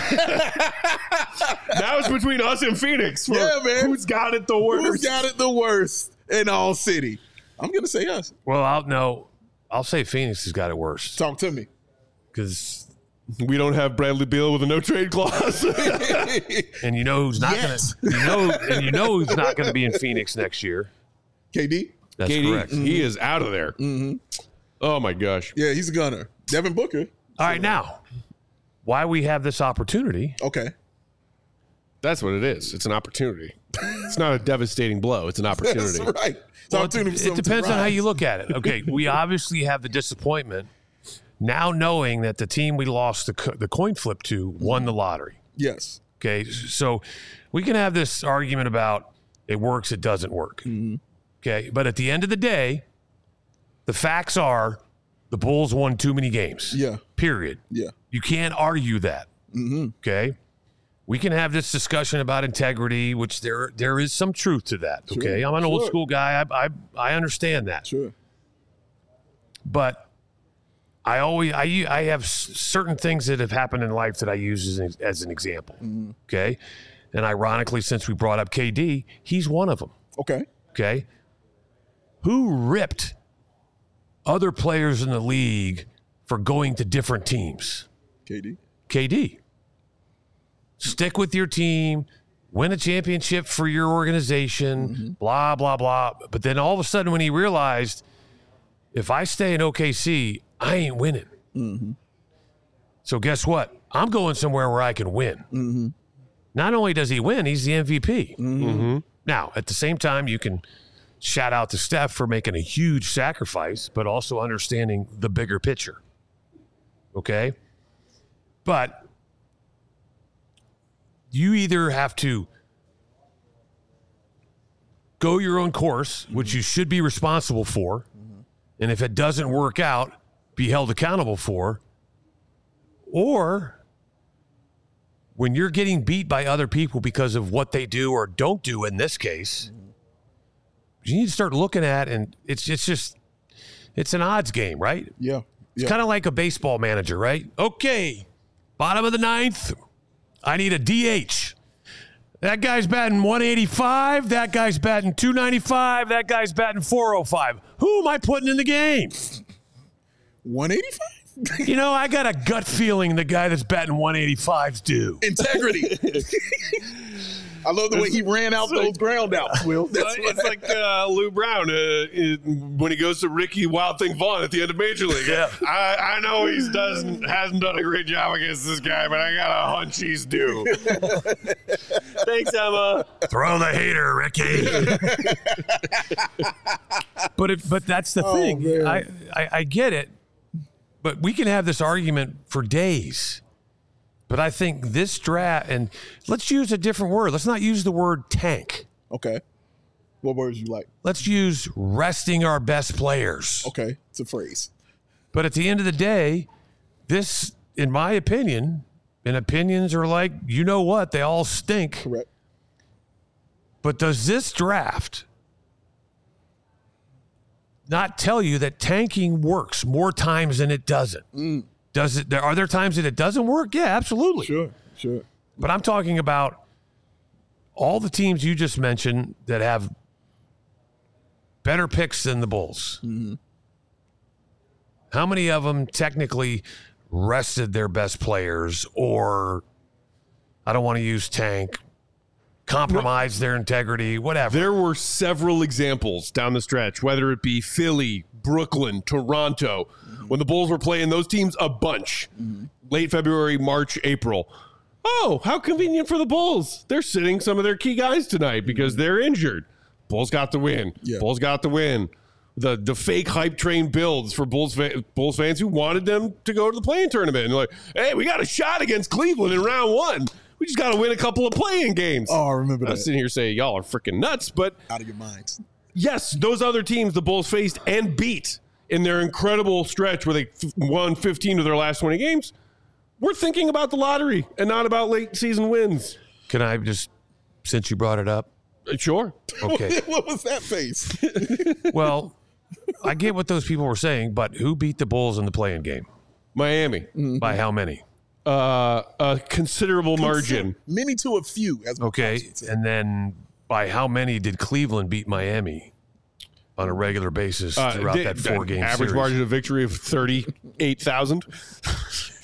that was between us and Phoenix. Yeah, man. Who's got it the worst? Who's got it the worst in all city? I'm going to say us. Well, I'll say Phoenix has got it worse. Talk to me. Because We don't have Bradley Beal with a no trade clause. And you know who's not going to you know who's not going to be in Phoenix next year. KD? That's KD, correct. he is out of there. Oh my gosh. Yeah, he's a gunner. Devin Booker. All right, now, why we have this opportunity? Okay. That's what it is. It's an opportunity. It's not a devastating blow. It's an opportunity. That's right. It's Well, opportunity for it someone to depends on how rise. you look at it. Okay, we obviously have the disappointment now knowing that the team we lost the coin flip to won the lottery. Yes. Okay, so we can have this argument about it works, it doesn't work. Okay, but at the end of the day, the facts are the Bulls won too many games. Yeah. Period. Yeah. You can't argue that. Okay. We can have this discussion about integrity, which there is some truth to that. Okay. I'm an old Sure. school guy. I understand that. Sure. But I have certain things that have happened in life that I use as an example. Okay. And ironically, since we brought up KD, he's one of them. Okay. Okay. Who ripped other players in the league for going to different teams? KD. KD. Stick with your team, win a championship for your organization, blah, blah, blah. But then all of a sudden when he realized, if I stay in OKC, I ain't winning. So guess what? I'm going somewhere where I can win. Not only does he win, he's the MVP. Now, at the same time, you can shout out to Steph for making a huge sacrifice, but also understanding the bigger picture. Okay? But you either have to go your own course, which you should be responsible for, and if it doesn't work out, be held accountable for, or when you're getting beat by other people because of what they do or don't do in this case, you need to start looking at, and it's an odds game, right? Yeah. It's kind of like a baseball manager, right? Okay, bottom of the ninth, I need a DH. That guy's batting 185. That guy's batting 295. That guy's batting 405. Who am I putting in the game? 185? You know, I got a gut feeling the guy that's batting 185's due. Integrity. I love the way he ran out those ground outs, Will. That's It's like Lou Brown when he goes to Ricky Wild Thing Vaughn at the end of Major League. Yeah. I know he hasn't done a great job against this guy, but I got a hunch he's due. Thanks, Emma. Throw the hater, Ricky. but that's the thing. man. I get it, but we can have this argument for days. But I think this draft, and let's use a different word. Let's not use the word tank. Okay. What words you like? Let's use resting our best players. Okay. It's a phrase. But at the end of the day, this, in my opinion, and opinions are like, you know what, they all stink. Correct. But does this draft not tell you that tanking works more times than it doesn't? Does it? Are there times that it doesn't work? Yeah, absolutely. Sure. But I'm talking about all the teams you just mentioned that have better picks than the Bulls. How many of them technically rested their best players, or I don't want to use tank, compromised their integrity, whatever? There were several examples down the stretch, whether it be Philly, Brooklyn, Toronto, when the Bulls were playing those teams a bunch, late February, March, April. Oh, how convenient for the Bulls. They're sitting some of their key guys tonight because they're injured. Bulls got the win. Yeah. Bulls got the win. The fake hype train builds for Bulls fans who wanted them to go to the play-in tournament. And they're like, hey, we got a shot against Cleveland in round one. We just got to win a couple of play-in games. Oh, I remember I'm that. sitting here saying, y'all are freaking nuts, but Out of your minds. yes, those other teams the Bulls faced and beat in their incredible stretch where they won 15 of their last 20 games, we're thinking about the lottery and not about late season wins. Can I just, since you brought it up? Sure. Okay. What was that face? Well, I get what those people were saying, but who beat the Bulls in the play-in game? Miami, By how many? a considerable margin. Many to a few. As Okay. Bobs would say. And then by how many did Cleveland beat Miami on a regular basis throughout that 4-game average series? margin of victory of 38,000.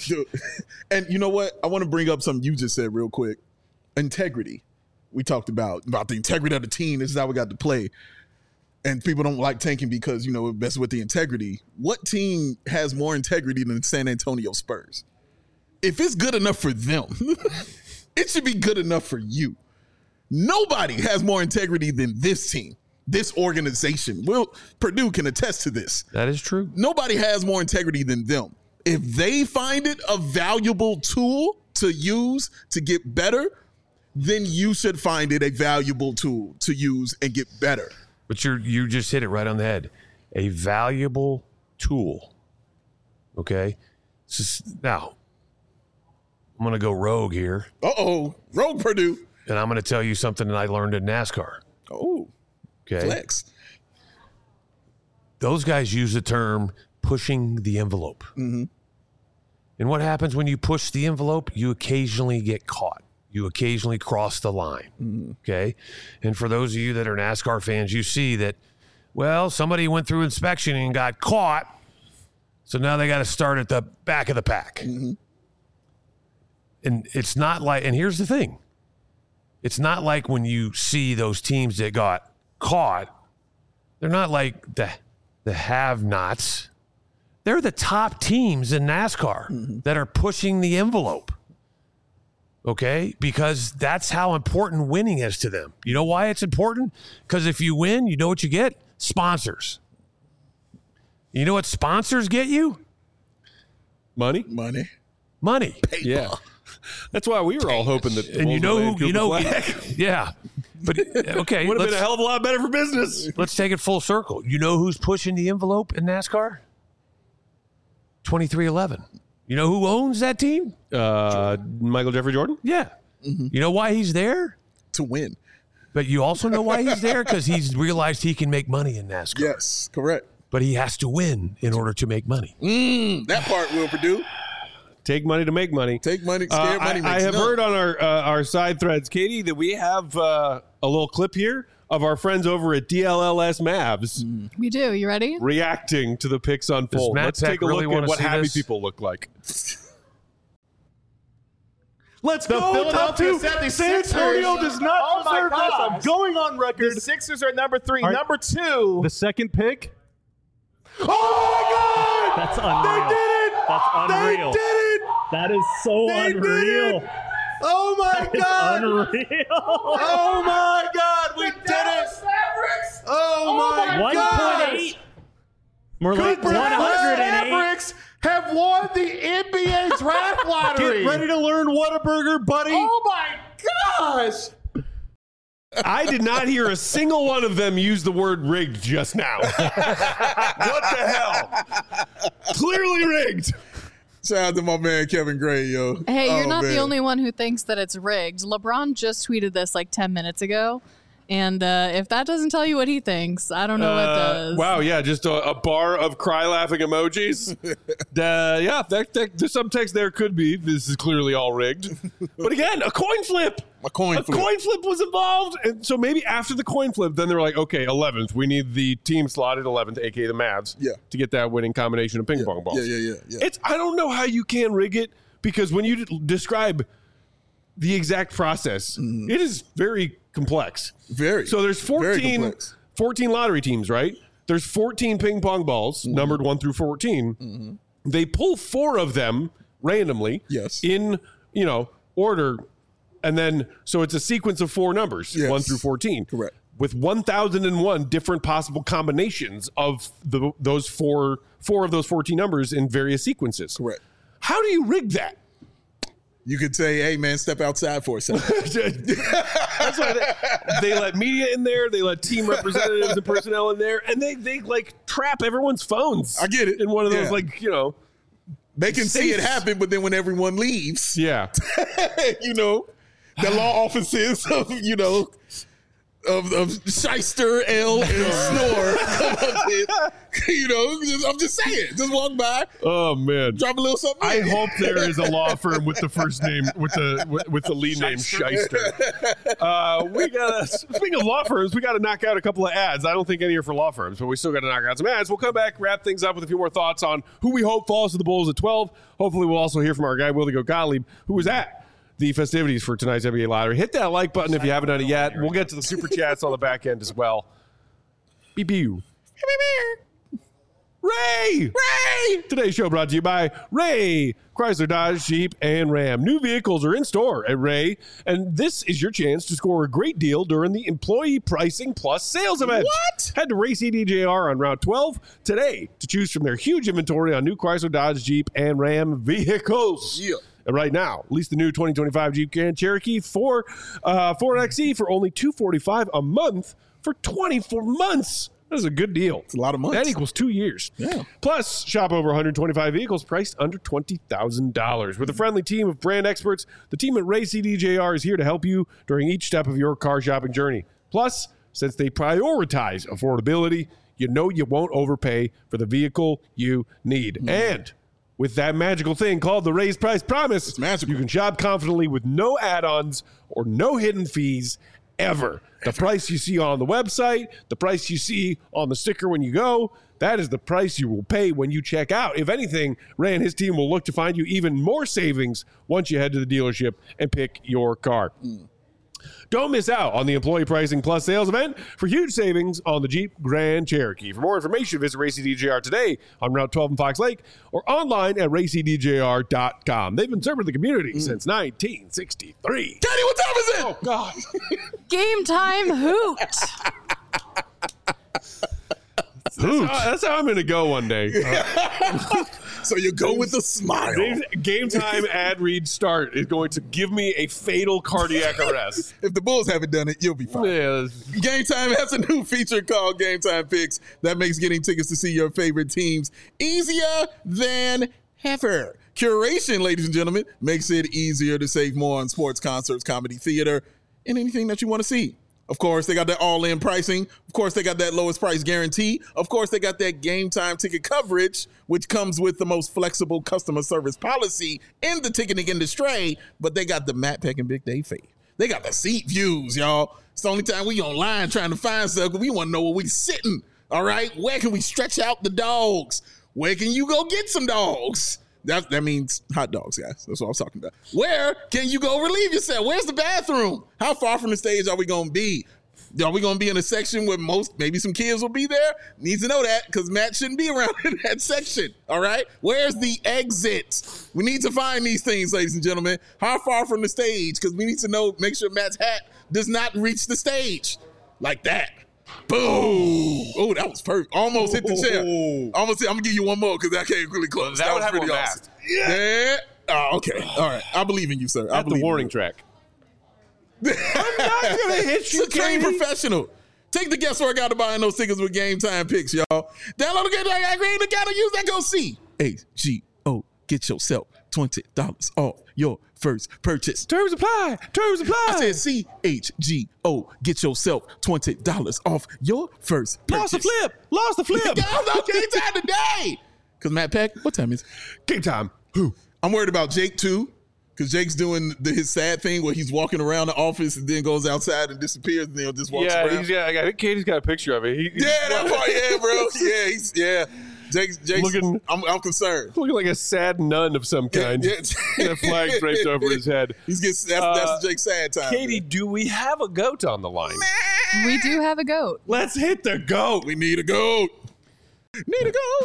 Dude. And you know what? I want to bring up something you just said real quick. Integrity. We talked about the integrity of the team. This is how we got to play. And people don't like tanking because, you know, it messes with the integrity. What team has more integrity than the San Antonio Spurs? If it's good enough for them, it should be good enough for you. Nobody has more integrity than this team, this organization. Purdue can attest to this. That is true. Nobody has more integrity than them. If they find it a valuable tool to use to get better, then you should find it a valuable tool to use and get better. But you just hit it right on the head. A valuable tool. Okay? Now, I'm going to go rogue here. Uh-oh. Rogue Purdue. And I'm going to tell you something that I learned in NASCAR. Oh. Okay? Flex. Those guys use the term pushing the envelope. Mm-hmm. And what happens when you push the envelope? You occasionally get caught. You occasionally cross the line. Mm-hmm. Okay? And for those of you that are NASCAR fans, you see that, well, somebody went through inspection and got caught, so now they got to start at the back of the pack. Mm-hmm. And it's not like, and here's the thing. It's not like when you see those teams that got caught, they're not like the have-nots. They're the top teams in NASCAR that are pushing the envelope. Okay? Because that's how important winning is to them. You know why it's important? Because if you win, you know what you get? Sponsors. You know what sponsors get you? Money. Money. Paper. Yeah. That's why we were all hoping that. And you know who, yeah. But okay. Would have been a hell of a lot better for business. Let's take it full circle. You know who's pushing the envelope in NASCAR? 2311. You know who owns that team? Michael Jeffrey Jordan? Yeah. Mm-hmm. You know why he's there? To win. But you also know why he's there? Because he's realized he can make money in NASCAR. Yes, correct. But he has to win in order to make money. That part will Purdue. Take money to make money. Take money, scared money makes I have none. heard on our side threads, Katie, that we have a little clip here of our friends over at DLLS Mavs We do. You ready? reacting to the picks unfold. Matt Let's Peck take a really look wanna at what see happy this? people look like. Let's The go. Philadelphia Top 2. 76ers. San Antonio does not Oh my deserve this. gosh. I'm going on record. The Sixers are number 3. Are- Number 2. The second pick. Oh my God! That's unreal. They did it! That's unreal. They did it! That is so They did unreal. it! Oh my It's God! unreal. Oh my God! We did it! Oh my God! 1.8. More like Cooper Dallas 108. Mavericks have won the NBA draft lottery. Get ready to learn Whataburger, buddy. Oh my gosh! I did not hear a single one of them use the word rigged just now. What the hell? Clearly rigged. Shout out to my man Kevin Gray, yo. Hey, you're Oh, not man. the only one who thinks that it's rigged. LeBron just tweeted this like 10 minutes ago. And if that doesn't tell you what he thinks, I don't know what does. Wow, yeah, just a bar of cry laughing emojis. Yeah, the subtext there could be this is clearly all rigged. But again, a coin flip. A coin flip. Coin flip was involved. And so maybe after the coin flip, then they were like, okay, 11th. We need the team slotted 11th, aka the Mavs, to get that winning combination of ping pong balls. Yeah. I don't know how you can rig it because when you describe the exact process, it is very complex. Very. So there's Very 14 complex. lottery teams, right? There's 14 ping pong balls, numbered 1 through 14. They pull 4 of them randomly Yes. in, order. And then, so it's a sequence of 4 numbers, Yes. 1 through 14. Correct. With 1,001 different possible combinations of those four of those 14 numbers in various sequences. Correct. How do you rig that? You could say, hey, man, step outside for a second. That's why they let media in there, they let team representatives and personnel in there, and they like trap everyone's phones. I get it. In one of those, Yeah. They can see it Safes. happen, but then when everyone leaves, yeah. the law offices of, of Shyster, L, and Snore come up with. You know, I'm just saying. Just walk by. Oh man, drop a little something. I hope there is a law firm with the first name with the lead name Shyster. We gotta, speaking of law firms, we got to knock out a couple of ads. I don't think any are for law firms, but we still got to knock out some ads. We'll come back, wrap things up with a few more thoughts on who we hope falls to the Bulls at 12. Hopefully, we'll also hear from our guy Willie Gottlieb, who was at the festivities for tonight's NBA lottery. Hit that like button if you haven't done it yet. We'll get to the super chats on the back end as well. Beep you. Ray! Today's show brought to you by Ray, Chrysler, Dodge, Jeep, and Ram. New vehicles are in store at Ray, and this is your chance to score a great deal during the Employee Pricing Plus sales event. What? Head to Ray CDJR on Route 12 today to choose from their huge inventory on new Chrysler, Dodge, Jeep, and Ram vehicles. Yeah. And right now, lease the new 2025 Jeep Grand Cherokee 4XE for only $245 a month for 24 months. That is a good deal. It's a lot of months. That equals 2 years. Yeah. Plus, shop over 125 vehicles priced under $20,000. With a friendly team of brand experts, the team at Ray CDJR is here to help you during each step of your car shopping journey. Plus, since they prioritize affordability, you know you won't overpay for the vehicle you need. And with that magical thing called the Raised Price Promise, It's magical. you can shop confidently with no add-ons or no hidden fees ever. The price you see on the website, the price you see on the sticker when you go, that is the price you will pay when you check out. If anything, Ray and his team will look to find you even more savings once you head to the dealership and pick your car. Don't miss out on the Employee Pricing Plus sales event for huge savings on the Jeep Grand Cherokee. For more information, visit RayCDJR today on Route 12 in Fox Lake or online at raycdjr.com. They've been serving the community since 1963. Daddy, what time is it? Oh, God. Game time hoot. That's how I'm going to go one day. So you go with a smile. Game time ad read start is going to give me a fatal cardiac arrest. If the Bulls haven't done it, you'll be fine. Yeah. Game Time has a new feature called Game Time Picks that makes getting tickets to see your favorite teams easier than ever. Curation, ladies and gentlemen, makes it easier to save more on sports, concerts, comedy, theater, and anything that you want to see. Of course, they got that all-in pricing. Of course, they got that lowest price guarantee. Of course, they got that Game Time ticket coverage, which comes with the most flexible customer service policy in the ticketing industry. But they got the Matt Peck and Big Dave Faith. They got the seat views, y'all. It's the only time we online trying to find stuff. We want to know where we sitting, all right? Where can we stretch out the dogs? Where can you go get some dogs? That means hot dogs, guys. That's what I was talking about. Where can you go relieve yourself? Where's the bathroom? How far from the stage are we going to be? Are we going to be in a section where maybe some kids will be there? Needs to know that because Matt shouldn't be around in that section, all right? Where's the exit? We need to find these things, ladies and gentlemen. How far from the stage? Because we need to know, make sure Matt's hat does not reach the stage. Like that. Boom. Oh, that was perfect. Almost hit the chair. Almost hit. I'm going to give you one more because that came really close. That would was have pretty one awesome. Yeah. Oh, okay. All right. I believe in you, sir. I At the believe warning in track. you. I'm not going to hit you, trained professional. Take the guesswork out of buying those tickets with Game Time Picks, y'all. Download the Game Time Picks. Gotta use that. Go see. HGO. Get yourself $20 off your first purchase. Terms apply. Terms apply. I said CHGO. Get yourself $20 off your first purchase. Lost the flip. Download Game Time today. Because Matt Peck, what time is it? Game time. Who? I'm worried about Jake too. Because Jake's doing his sad thing where he's walking around the office and then goes outside and disappears and then just walks around. I think Katie's got a picture of it. That part, yeah, bro. Yeah, Jake's Looking- I'm concerned. Looking like a sad nun of some kind. Yeah. And a flag draped over his head. That's Jake's sad time. Katie, do we have a goat on the line? We do have a goat. Let's hit the goat. We need a goat. Need a goat.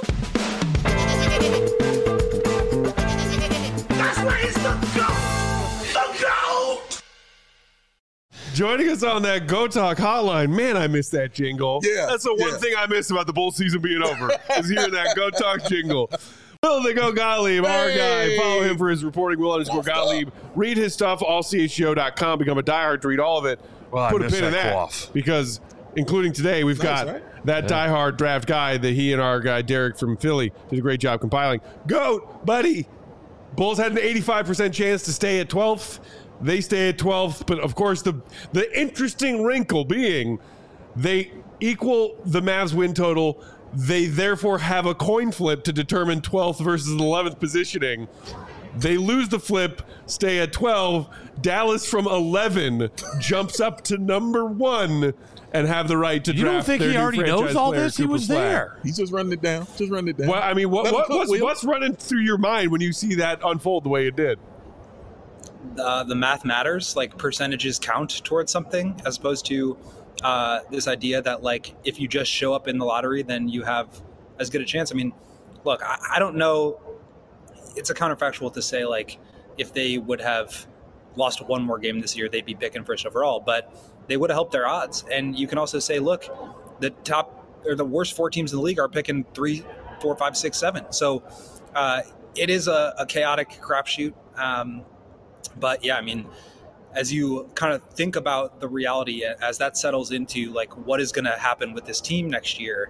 That's where he's the goat! The goat! Joining us on that Go Talk hotline. Man, I miss that jingle. Yeah, That's the one thing I miss about the Bull season being over is hearing that Go Talk jingle. Will the Go Gottlieb, our guy. Follow him for his reporting. Will_Gottlieb. Read his stuff, allchgo.com. Become a diehard to read all of it. Well, I Put a miss pin in that that. quaff. Because, including today, we've got that diehard draft guy that he and our guy Derek from Philly did a great job compiling. Goat, buddy. Bulls had an 85% chance to stay at 12th. They stay at 12th, but of course the interesting wrinkle being they equal the Mavs win total. They therefore have a coin flip to determine 12th versus 11th positioning. They lose the flip, stay at 12. Dallas from 11 jumps up to number 1 and have the right to draft. You don't think their he new already franchise knows all player, this? He Cooper was Flagg. there. He's just running it down. Well, I mean, what's running through your mind when you see that unfold the way it did? The math matters. Like, percentages count towards something, as opposed to this idea that, like, if you just show up in the lottery, then you have as good a chance. I mean, look, I don't know. It's a counterfactual to say, like, if they would have lost one more game this year, they'd be picking first overall, but they would have helped their odds. And you can also say, look, the top or the worst 4 teams in the league are picking 3, 4, 5, 6, 7. So it is a chaotic crapshoot. But yeah, I mean, as you kind of think about the reality as that settles into, like, what is going to happen with this team next year,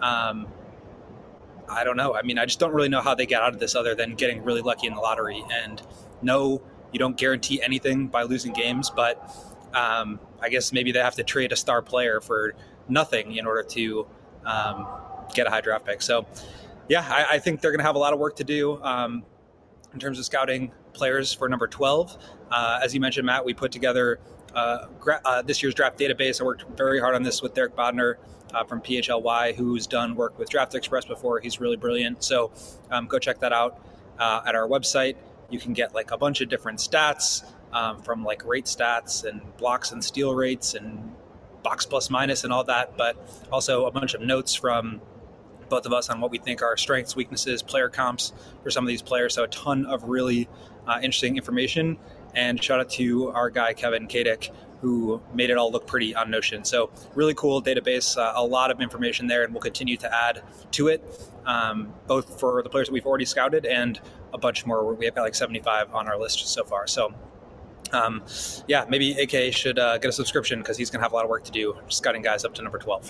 I don't know. I mean, I just don't really know how they get out of this other than getting really lucky in the lottery. And no, you don't guarantee anything by losing games, but I guess maybe they have to trade a star player for nothing in order to get a high draft pick. So yeah, I think they're going to have a lot of work to do in terms of scouting players for number 12. As you mentioned, Matt, we put together this year's draft database. I worked very hard on this with Derek Bodner from PHLY, who's done work with Draft Express before. He's really brilliant. So go check that out at our website. You can get like a bunch of different stats from like rate stats and blocks and steal rates and box plus minus and all that, but also a bunch of notes from both of us on what we think are strengths, weaknesses, player comps for some of these players. So a ton of really interesting information. And shout out to our guy, Kevin Kadick, who made it all look pretty on Notion. So really cool database, a lot of information there, and we'll continue to add to it, both for the players that we've already scouted and a bunch more. We have got like 75 on our list so far. So yeah, maybe AK should get a subscription because he's going to have a lot of work to do scouting guys up to number 12.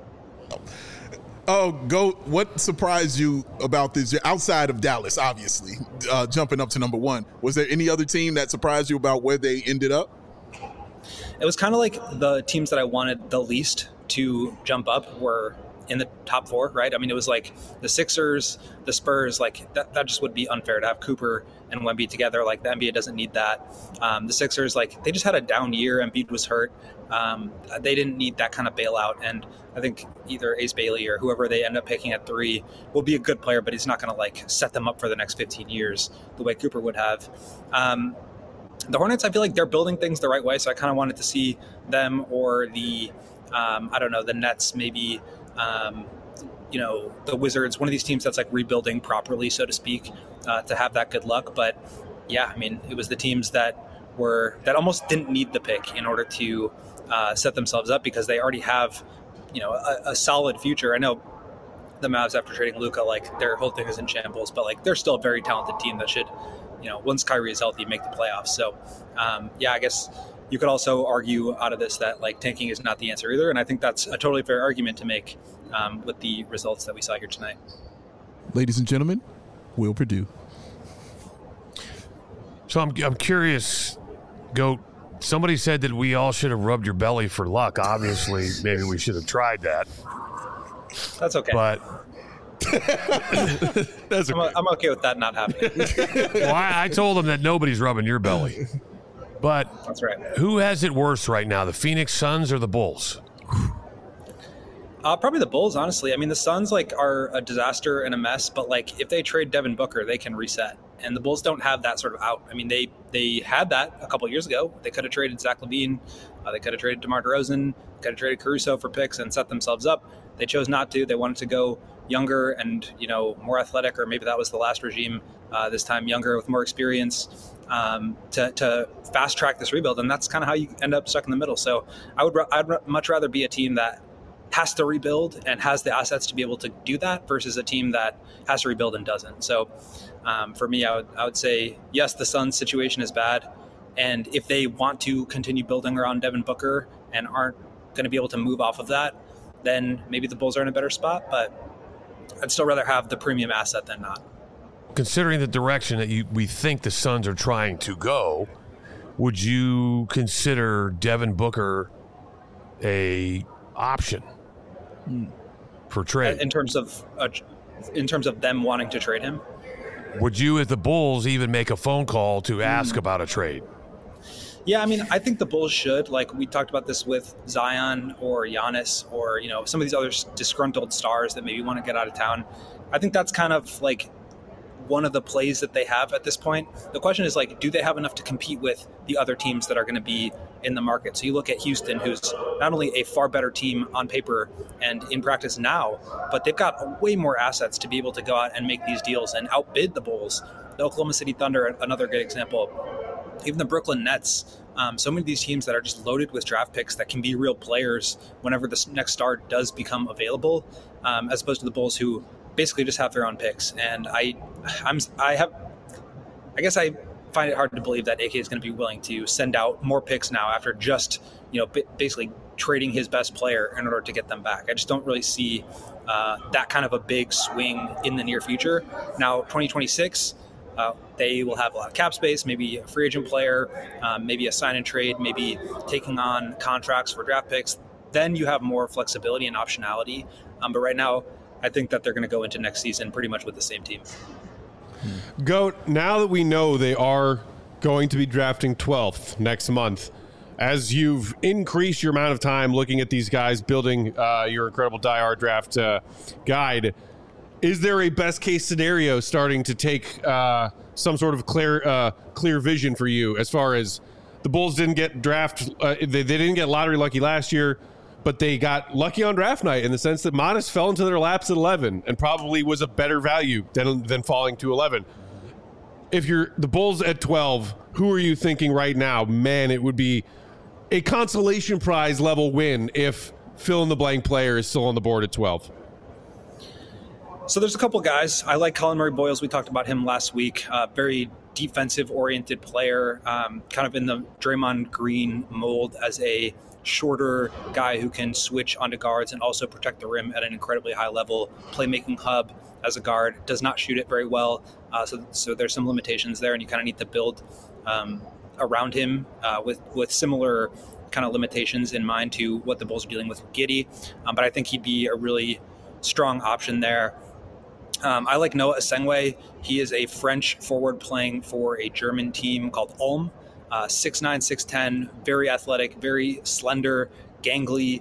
Oh, what surprised you about this year, outside of Dallas, obviously, jumping up to number 1? Was there any other team that surprised you about where they ended up? It was kind of like the teams that I wanted the least to jump up were in the top 4, right? I mean, it was like the Sixers, the Spurs, like that just would be unfair to have Cooper and Wemby together. Like, the NBA doesn't need that. The Sixers, like, they just had a down year. Embiid was hurt. They didn't need that kind of bailout. And I think either Ace Bailey or whoever they end up picking at 3 will be a good player, but he's not going to like set them up for the next 15 years the way Cooper would have. The Hornets, I feel like they're building things the right way. So I kind of wanted to see them or the, I don't know, the Nets, maybe, you know, the Wizards, one of these teams that's like rebuilding properly, so to speak, to have that good luck. But yeah, I mean, it was the teams that almost didn't need the pick in order to set themselves up because they already have, you know, a solid future. I know the Mavs, after trading Luka, like, their whole thing is in shambles, but like, they're still a very talented team that should, you know, once Kyrie is healthy, make the playoffs. So yeah, I guess you could also argue out of this that like tanking is not the answer either. And I think that's a totally fair argument to make with the results that we saw here tonight. Ladies and gentlemen, Will Perdue. So I'm curious, Goat. Somebody said that we all should have rubbed your belly for luck. Obviously, maybe we should have tried that. That's okay. But That's okay. I'm okay with that not happening. well, I told him that nobody's rubbing your belly. But That's right. Who has it worse right now, the Phoenix Suns or the Bulls? Probably the Bulls, honestly. I mean, the Suns like are a disaster and a mess, but like if they trade Devin Booker, they can reset. And the Bulls don't have that sort of out. I mean, they had that a couple years ago. They could have traded Zach LaVine. They could have traded DeMar DeRozan. Could have traded Caruso for picks and set themselves up. They chose not to. They wanted to go younger and, you know, more athletic, or maybe that was the last regime. This time younger with more experience to fast track this rebuild. And that's kind of how you end up stuck in the middle. So I'd much rather be a team that has to rebuild and has the assets to be able to do that versus a team that has to rebuild and doesn't. So for me, I would say, yes, the Suns situation is bad. And if they want to continue building around Devin Booker and aren't going to be able to move off of that, then maybe the Bulls are in a better spot. But I'd still rather have the premium asset than not. Considering the direction that we think the Suns are trying to go, would you consider Devin Booker a option for trade? In terms of them wanting to trade him? Would you, as the Bulls, even make a phone call to ask about a trade? Yeah, I mean, I think the Bulls should. Like, we talked about this with Zion or Giannis or, some of these other disgruntled stars that maybe want to get out of town. I think that's kind of like one of the plays that they have at this point. The question is, like, do they have enough to compete with the other teams that are going to be in the market? So you look at Houston, who's not only a far better team on paper and in practice now, but they've got way more assets to be able to go out and make these deals and outbid the Bulls. The Oklahoma City Thunder, another good example. Even the Brooklyn Nets, so many of these teams that are just loaded with draft picks that can be real players whenever the next star does become available, as opposed to the Bulls, who basically just have their own picks. And I guess I find it hard to believe that AK is going to be willing to send out more picks now after just basically trading his best player in order to get them back. I just don't really see that kind of a big swing in the near future. Now, 2026. They will have a lot of cap space, maybe a free agent player, maybe a sign and trade, maybe taking on contracts for draft picks. Then you have more flexibility and optionality. But right now, I think that they're going to go into next season pretty much with the same team. Goat, now that we know they are going to be drafting 12th next month, as you've increased your amount of time looking at these guys, building your incredible Die Hard draft guide, is there a best case scenario starting to take some sort of clear vision for you as far as the Bulls didn't get they didn't get lottery lucky last year, but they got lucky on draft night in the sense that Modest fell into their laps at 11 and probably was a better value than falling to 11. If you're the Bulls at 12, who are you thinking right now? Man, it would be a consolation prize level win if fill in the blank player is still on the board at 12. So there's a couple guys. I like Colin Murray-Boyles. We talked about him last week. Very defensive-oriented player, kind of in the Draymond Green mold as a shorter guy who can switch onto guards and also protect the rim at an incredibly high level. Playmaking hub as a guard. Does not shoot it very well. So there's some limitations there, and you kind of need to build around him with similar kind of limitations in mind to what the Bulls are dealing with Giddey. But I think he'd be a really strong option there. I like Noah Asengwe. He is a French forward playing for a German team called Ulm. 6'9", 6'10", very athletic, very slender, gangly,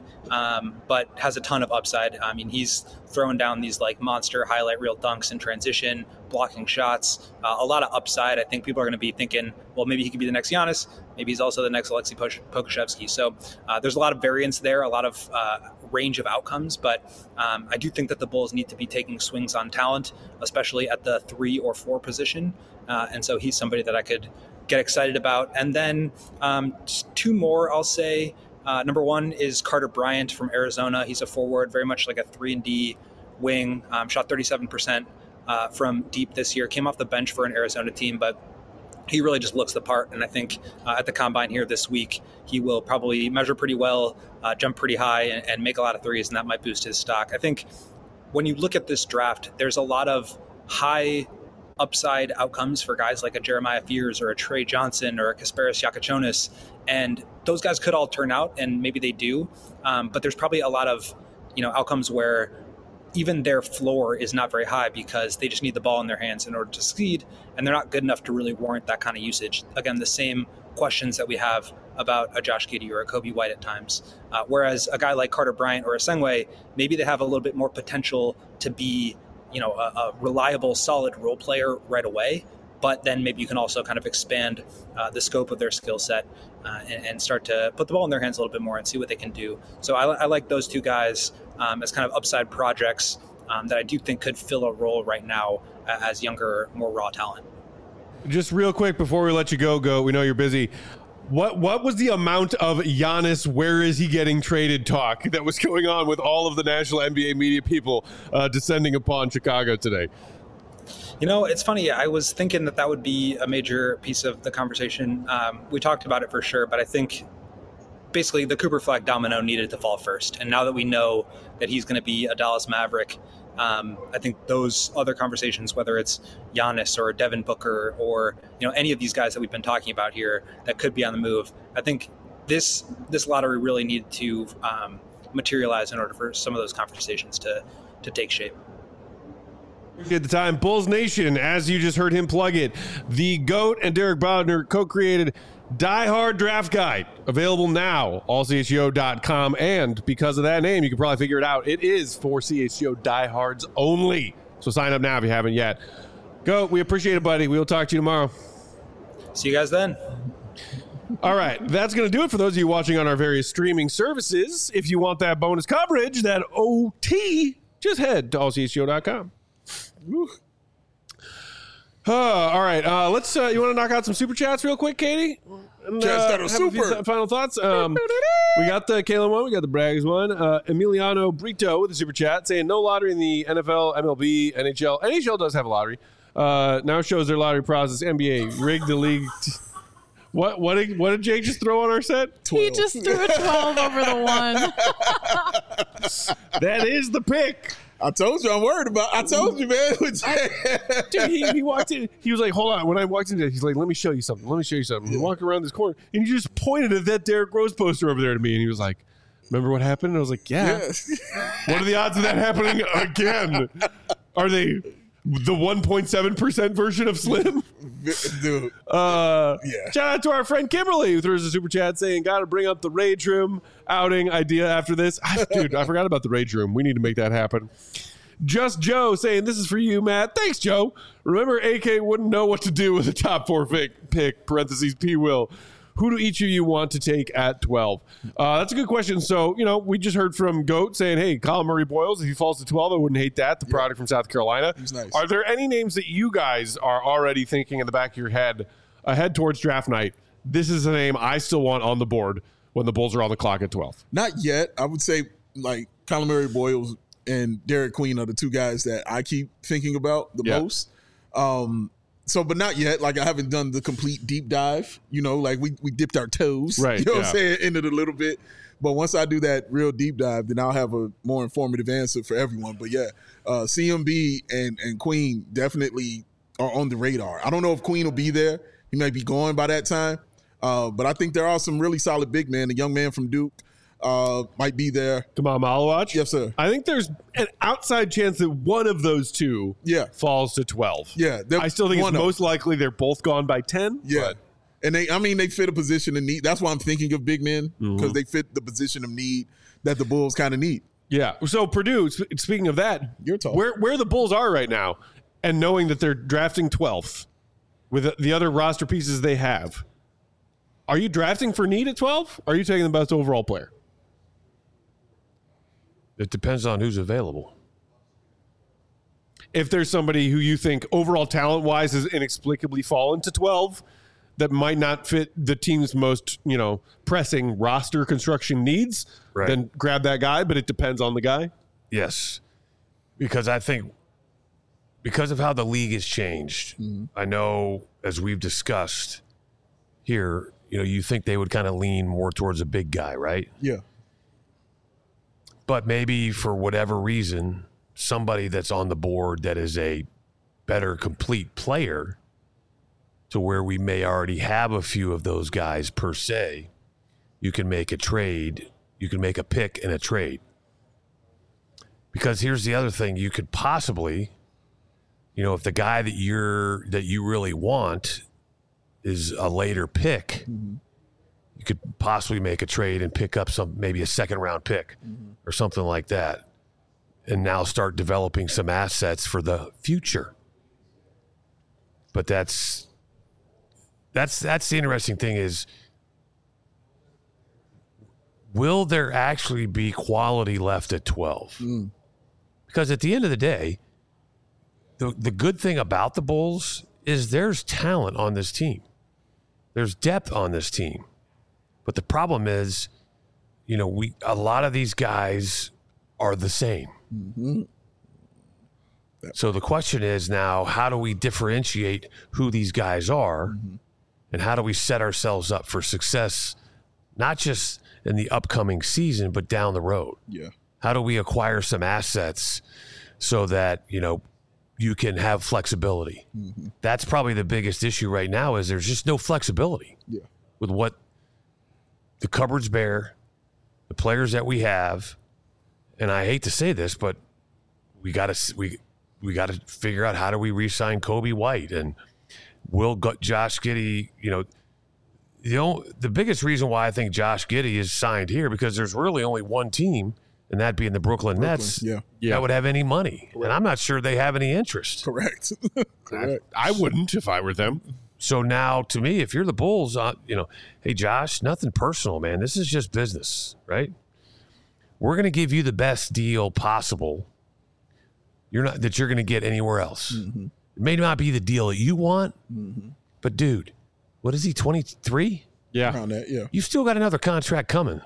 but has a ton of upside. I mean, he's throwing down these like monster highlight reel dunks in transition, blocking shots, a lot of upside. I think people are going to be thinking, well, maybe he could be the next Giannis. Maybe he's also the next Alexei Pokusevski. So there's a lot of variance there, a lot of range of outcomes. But I do think that the Bulls need to be taking swings on talent, especially at the 3 or 4 position. And so he's somebody that I could get excited about. And then just 2 more, I'll say. Number 1 is Carter Bryant from Arizona. He's a forward, very much like a 3-and-D wing. Shot 37% from deep this year. Came off the bench for an Arizona team, but he really just looks the part. And I think at the Combine here this week, he will probably measure pretty well, jump pretty high, and make a lot of threes, and that might boost his stock. I think when you look at this draft, there's a lot of high upside outcomes for guys like a Jeremiah Fears or a Trey Johnson or a Kasparis Yakachonis. And those guys could all turn out, and maybe they do. But there's probably a lot of outcomes where even their floor is not very high because they just need the ball in their hands in order to succeed, and they're not good enough to really warrant that kind of usage. Again, the same questions that we have about a Josh Giddey or a Kobe White at times. Whereas a guy like Carter Bryant or Asengwe, maybe they have a little bit more potential to be a reliable, solid role player right away. But then maybe you can also kind of expand the scope of their skill set and start to put the ball in their hands a little bit more and see what they can do. So I like those 2 guys as kind of upside projects that I do think could fill a role right now as younger, more raw talent. Just real quick before we let you go, we know you're busy. What was the amount of Giannis, where is he getting traded talk that was going on with all of the national NBA media people descending upon Chicago today? It's funny. I was thinking that would be a major piece of the conversation. We talked about it for sure, but I think basically the Cooper Flag domino needed to fall first. And now that we know that he's going to be a Dallas Maverick, I think those other conversations, whether it's Giannis or Devin Booker or any of these guys that we've been talking about here that could be on the move, I think this lottery really needed to materialize in order for some of those conversations to take shape. Appreciate the time. Bulls Nation, as you just heard him plug it, the GOAT and Derek Bowdner co-created Die Hard Draft Guide, available now, allchgo.com. And because of that name, you can probably figure it out. It is for CHGO diehards only. So sign up now if you haven't yet. GOAT, we appreciate it, buddy. We will talk to you tomorrow. See you guys then. All right, that's going to do it for those of you watching on our various streaming services. If you want that bonus coverage, that OT, just head to allchgo.com. All right, let's. You want to knock out some super chats real quick, Katie? And, final thoughts. We got the Kalen one. We got the Braggs one. Emiliano Brito with the super chat saying no lottery in the NFL, MLB, NHL. NHL does have a lottery. Now shows their lottery process. NBA rigged the league. What did Jake just throw on our set? 12. He just threw a 12 over the 1. That is the pick. I told you I'm worried about. I told you, man. Dude, he walked in. He was like, "Hold on." When I walked in, he's like, "Let me show you something. Let me show you something." We walk around this corner, and he just pointed at that Derrick Rose poster over there to me, and he was like, "Remember what happened?" And I was like, "Yeah." What are the odds of that happening again? Are they the 1.7% version of Slim? Dude. Yeah. Shout out to our friend Kimberly, who throws a super chat saying, "Got to bring up the Rage Room outing idea after this." Dude, I forgot about the Rage Room. We need to make that happen. Just Joe saying, "This is for you, Matt." Thanks, Joe. Remember, AK wouldn't know what to do with a top 4 pick, parentheses, P will. Who do each of you want to take at 12? That's a good question. So, we just heard from GOAT saying, hey, Colin Murray Boyles, if he falls to 12, I wouldn't hate that. The product from South Carolina. He's nice. Are there any names that you guys are already thinking in the back of your head ahead towards draft night? This is a name I still want on the board when the Bulls are on the clock at 12. Not yet. I would say like Colin Murray Boyles and Derek Queen are the two guys that I keep thinking about the most. But not yet. Like, I haven't done the complete deep dive. Like we dipped our toes. Right. You know what I'm saying? In it a little bit. But once I do that real deep dive, then I'll have a more informative answer for everyone. But yeah, CMB and Queen definitely are on the radar. I don't know if Queen will be there. He might be gone by that time. But I think there are some really solid big men. The young man from Duke might be there. Kamal Malawach? Yes, sir. I think there's an outside chance that one of those two falls to 12. Yeah. I still think it's most likely they're both gone by 10. Yeah. And they fit a position of need. That's why I'm thinking of big men, because they fit the position of need that the Bulls kind of need. Yeah. So Purdue, speaking of that, where the Bulls are right now, and knowing that they're drafting 12th with the other roster pieces they have, are you drafting for need at 12? Or are you taking the best overall player? It depends on who's available. If there's somebody who you think overall talent-wise has inexplicably fallen to 12 that might not fit the team's most, pressing roster construction needs, then grab that guy, but it depends on the guy. Yes. Because I think because of how the league has changed, I know, as we've discussed here, you think they would kind of lean more towards a big guy, right? Yeah. But maybe for whatever reason, somebody that's on the board that is a better complete player, to where we may already have a few of those guys per se, you can make a trade. You can make a pick and a trade. Because here's the other thing. You could possibly, if the guy that you really want is a later pick, you could possibly make a trade and pick up maybe a second round pick or something like that, and now start developing some assets for the future. But that's the interesting thing is, will there actually be quality left at 12? Because at the end of the day, the good thing about the Bulls is there's talent on this team. There's depth on this team. But the problem is, a lot of these guys are the same. So the question is now, how do we differentiate who these guys are, and how do we set ourselves up for success, not just in the upcoming season, but down the road? Yeah. How do we acquire some assets so that, you can have flexibility. Mm-hmm. That's probably the biggest issue right now is there's just no flexibility with what the cupboard's bare, the players that we have. And I hate to say this, but we got to figure out how do we re-sign Kobe White and will Josh Giddey, the biggest reason why I think Josh Giddey is signed here because there's really only one team, and that being the Brooklyn Nets, that would have any money. Correct. And I'm not sure they have any interest. Correct. I wouldn't if I were them. So now, to me, if you're the Bulls, hey, Josh, nothing personal, man. This is just business, right? We're going to give you the best deal possible. You're going to get anywhere else. Mm-hmm. It may not be the deal that you want, but dude, what is he, 23? Yeah. Around that, yeah. You still got another contract coming.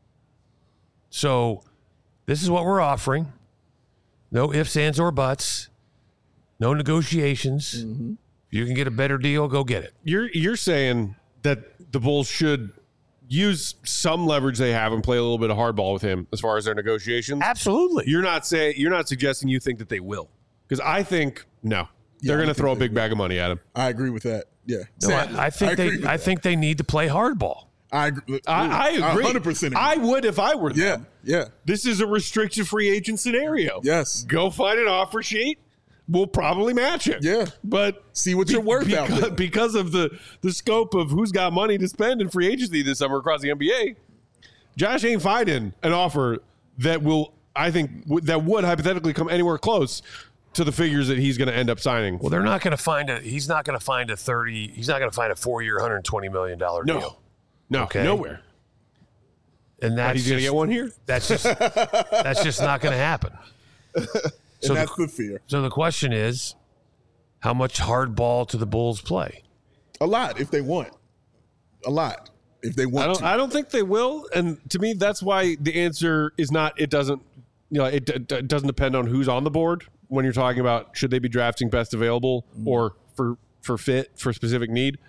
So this is what we're offering. No ifs, ands, or buts. No negotiations. Mm-hmm. If you can get a better deal, go get it. You're saying that the Bulls should use some leverage they have and play a little bit of hardball with him as far as their negotiations? Absolutely. You're not suggesting you think that they will. Because I think no. They're going to throw a big bag of money at him. I agree with that. Yeah. No, I think they need to play hardball. I agree. I agree. 100% agree. I would if I were them. Yeah. This is a restricted free agent scenario. Yes. Go find an offer sheet. We'll probably match it. Yeah. But see what you're worth out there. Because of the scope of who's got money to spend in free agency this summer across the NBA, Josh ain't finding an offer that will, I think, that would hypothetically come anywhere close to the figures that he's going to end up signing. Well, he's not going to find a 4-year, $120 million deal. No, okay? Nowhere. And that's he's going to get one here? That's just not going to happen. So that's the fear. So the question is, how much hard ball do the Bulls play? A lot if they want. A lot if they want to. I don't think they will. And to me, that's why the answer is not, it doesn't depend on who's on the board when you're talking about should they be drafting best available or for fit, for specific need.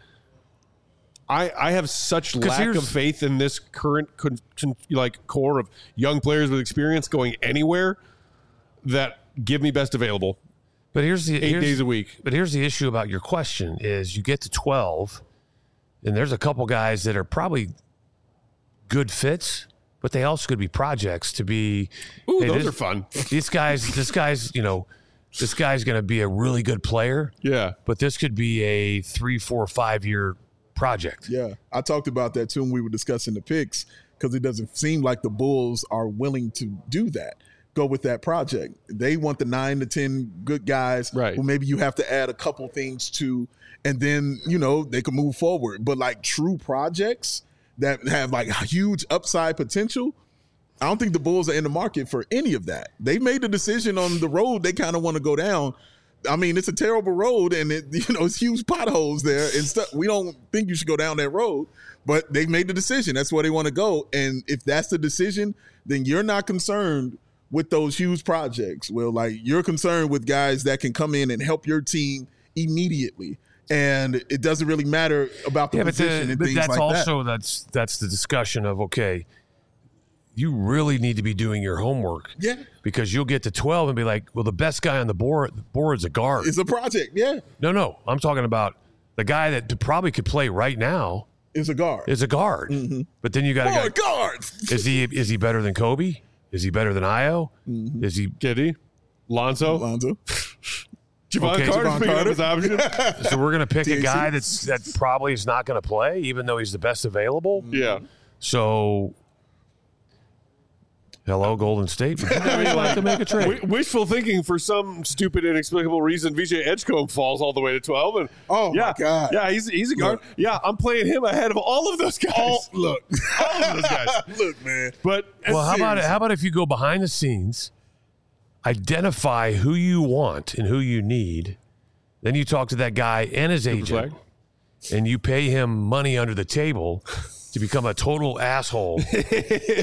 I have such lack of faith in this current core of young players with experience going anywhere that give me best available. But here's 8 days a week. But here's the issue about your question is you get to 12 and there's a couple guys that are probably good fits, but they also could be projects to be. Ooh, those are fun. This guy's going to be a really good player. Yeah. But this could be a 3, 4, 5 year project. Yeah. I talked about that too when we were discussing the picks because it doesn't seem like the Bulls are willing to do that. Go with that project. They want the 9 to 10 good guys who maybe you have to add a couple things to, and then, they can move forward. But like true projects that have like huge upside potential, I don't think the Bulls are in the market for any of that. They made the decision on the road they kind of want to go down. I mean, it's a terrible road and it's huge potholes there and stuff. We don't think you should go down that road, but they made the decision. That's where they want to go. And if that's the decision, then you're not concerned with those huge projects. Well, like you're concerned with guys that can come in and help your team immediately. And it doesn't really matter about the position and things like that. That's the discussion of, okay, you really need to be doing your homework. Yeah. Because you'll get to 12 and be like, well, the best guy on the board's a guard. It's a project, yeah. No. I'm talking about the guy that probably could play right now. Is a guard. Mm-hmm. But then you got a guard. Is he better than Kobe? Is he better than Io? Mm-hmm. Is he Giddey? Lonzo? Javon Carter's option. So we're going to pick a guy that probably is not going to play, even though he's the best available. Yeah. So, hello, Golden State. Would you like to make a trade? Wishful thinking for some stupid, inexplicable reason. VJ Edgecombe falls all the way to 12. And my God. Yeah, he's a guard. Look. Yeah, I'm playing him ahead of all of those guys. All of those guys. Look, man. But how about if you go behind the scenes, identify who you want and who you need, then you talk to that guy and his agent, and you pay him money under the table to become a total asshole.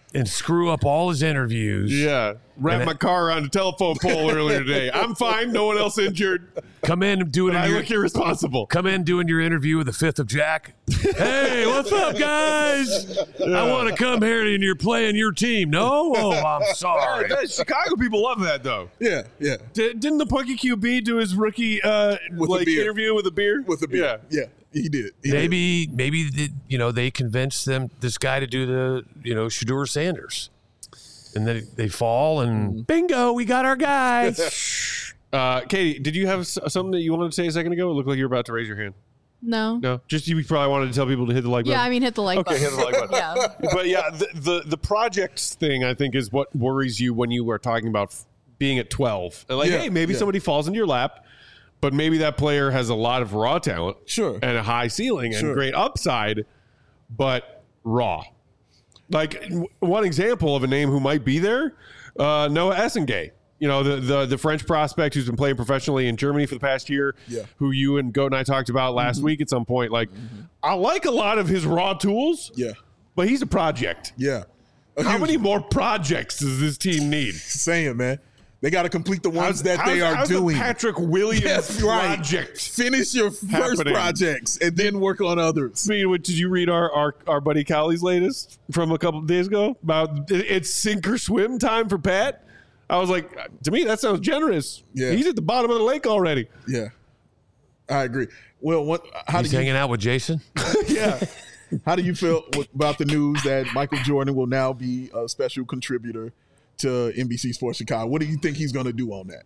and screw up all his interviews. Yeah. Wrapped my car around a telephone pole earlier today. I'm fine. No one else injured. Come in and doing I look irresponsible. Come in doing your interview with the 5th of Jack. Hey, what's up, guys? I want to come here and you're playing your team. No? Oh, I'm sorry. Chicago people love that, though. Yeah, yeah. Didn't the Punky QB do his rookie With a beer. interview with a beer? With the beer. Yeah, he did. He did. Maybe they convinced this guy to do the Shedeur Sanders, and then they fall and bingo, we got our guy. Katie, did you have something that you wanted to say a second ago? It looked like you were about to raise your hand. No. Just you probably wanted to tell people to hit the like button. Yeah, I mean, hit the like button. Okay, hit the like button. Yeah. But yeah, the projects thing I think is what worries you when you were talking about being at 12. And hey, maybe somebody falls into your lap. But maybe that player has a lot of raw talent, sure, and a high ceiling and great upside, but raw. Like one example of a name who might be there, Noah Essengay. The French prospect who's been playing professionally in Germany for the past year, who you and Goat and I talked about last week at some point. Like, I like a lot of his raw tools, but he's a project. Yeah. How many more projects does this team need? Saying, man. They got to complete the ones that they are doing. The Patrick Williams project. Finish your first projects and then work on others. Did you read our buddy Callie's latest from a couple of days ago about it's sink or swim time for Pat? I was like, to me, that sounds generous. Yeah. He's at the bottom of the lake already. Yeah. I agree. Well, he's hanging out with Jason? Yeah. How do you feel about the news that Michael Jordan will now be a special contributor to NBC Sports Chicago? What do you think he's going to do on that?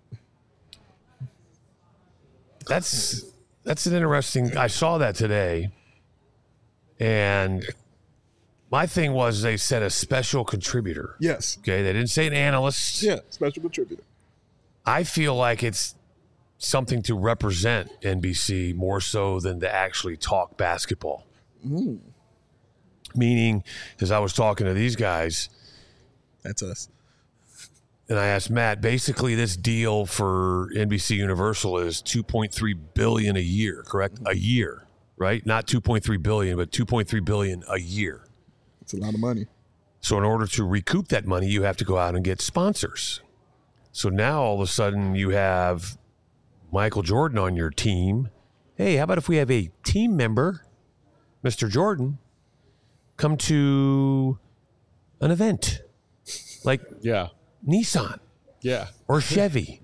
That's an interesting. I saw that today, and my thing was they said a special contributor. Yes. Okay, they didn't say an analyst. Yeah, special contributor. I feel like it's something to represent NBC more so than to actually talk basketball. Meaning, as I was talking to these guys, that's us. And I asked Matt, basically this deal for NBC Universal is $2.3 billion a year, correct? A year, right? Not $2.3 billion, but $2.3 billion a year. That's a lot of money. So in order to recoup that money, you have to go out and get sponsors. So now all of a sudden you have Michael Jordan on your team. Hey, how about if we have a team member, Mr. Jordan, come to an event like Nissan, or Chevy,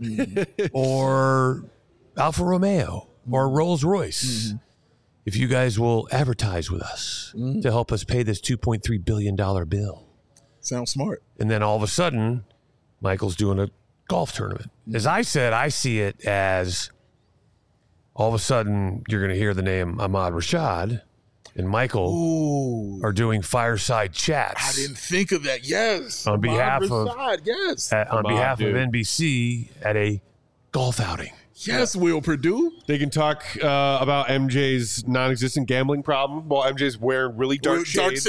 or Alfa Romeo, or Rolls Royce. If you guys will advertise with us to help us pay this $2.3 billion bill. Sounds smart. And then all of a sudden, Michael's doing a golf tournament. As I said, I see it as all of a sudden you're going to hear the name Ahmad Rashad and Michael are doing fireside chats. I didn't think of that. Yes. On behalf of Rashad, NBC at a golf outing. Yes, Will Purdue. They can talk about MJ's non-existent gambling problem while MJ's wearing really dark shades.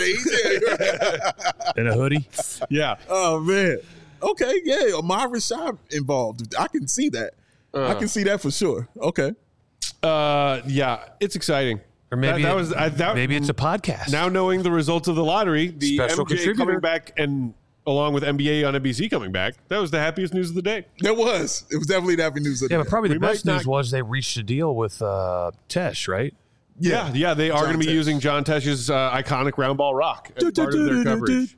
And a hoodie. Yeah. Oh, man. Okay, yeah. Ahmad Rashad involved. I can see that. I can see that for sure. Okay. Yeah, it's exciting. Or maybe maybe it's a podcast. Now knowing the results of the lottery, the Special MJ contributor coming back and along with NBA on NBC coming back, that was the happiest news of the day. It was definitely the happy news of the day. Yeah, but probably the best news was they reached a deal with Tesh, right? Yeah, they are going to be using John Tesh's iconic round ball rock as part of their coverage.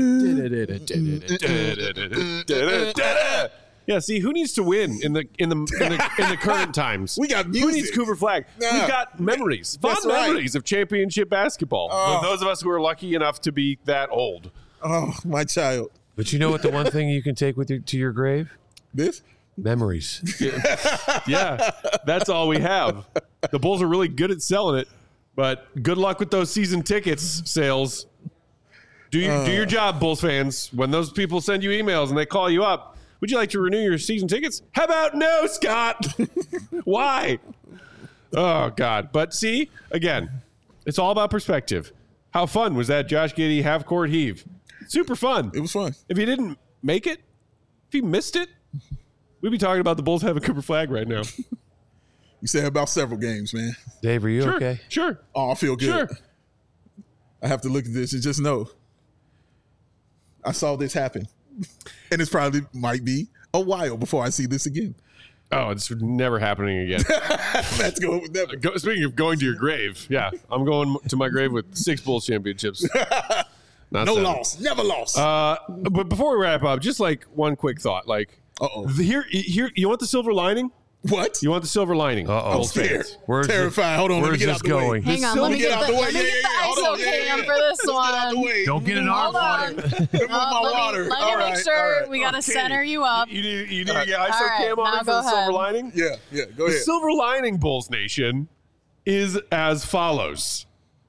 Yeah, see, who needs to win in the current times? We got music. Who needs Cooper Flag? Yeah. We've got memories, fond memories of championship basketball. For those of us who are lucky enough to be that old. Oh, my child. But you know what the one thing you can take with you to your grave? This? Memories. Yeah, that's all we have. The Bulls are really good at selling it, but good luck with those season tickets sales. Do your job, Bulls fans. When those people send you emails and they call you up, would you like to renew your season tickets? How about no, Scott? Why? Oh, God. But see, again, it's all about perspective. How fun was that Josh Giddey half-court heave? Super fun. It was fun. If he didn't make it, if he missed it, we'd be talking about the Bulls having Cooper Flag right now. You said about several games, man. Dave, are you okay? Sure. Oh, I feel good. Sure. I have to look at this and just know I saw this happen. And it's probably might be a while before I see this again. Oh, it's never happening again. Let's go with never. Speaking of going to your grave, yeah, I'm going to my grave with 6 Bulls championships. No 7. loss. Never lost. But before we wrap up, just like one quick thought. Like, here, you want the silver lining? What? You want the silver lining? I'm scared. Where's terrified. Hold on. Let me Where's get this out the going? way. Hang on, let me get the Hold on. ISO cam for this Let's one. get out the way. Don't get in our Hold on. water. Move my water. Let me All make right, sure all right. we got to Okay. center you up. You need to get ISO All right, cam on now it for go the silver ahead. lining? Yeah, go The ahead. silver lining, Bulls Nation, is as follows.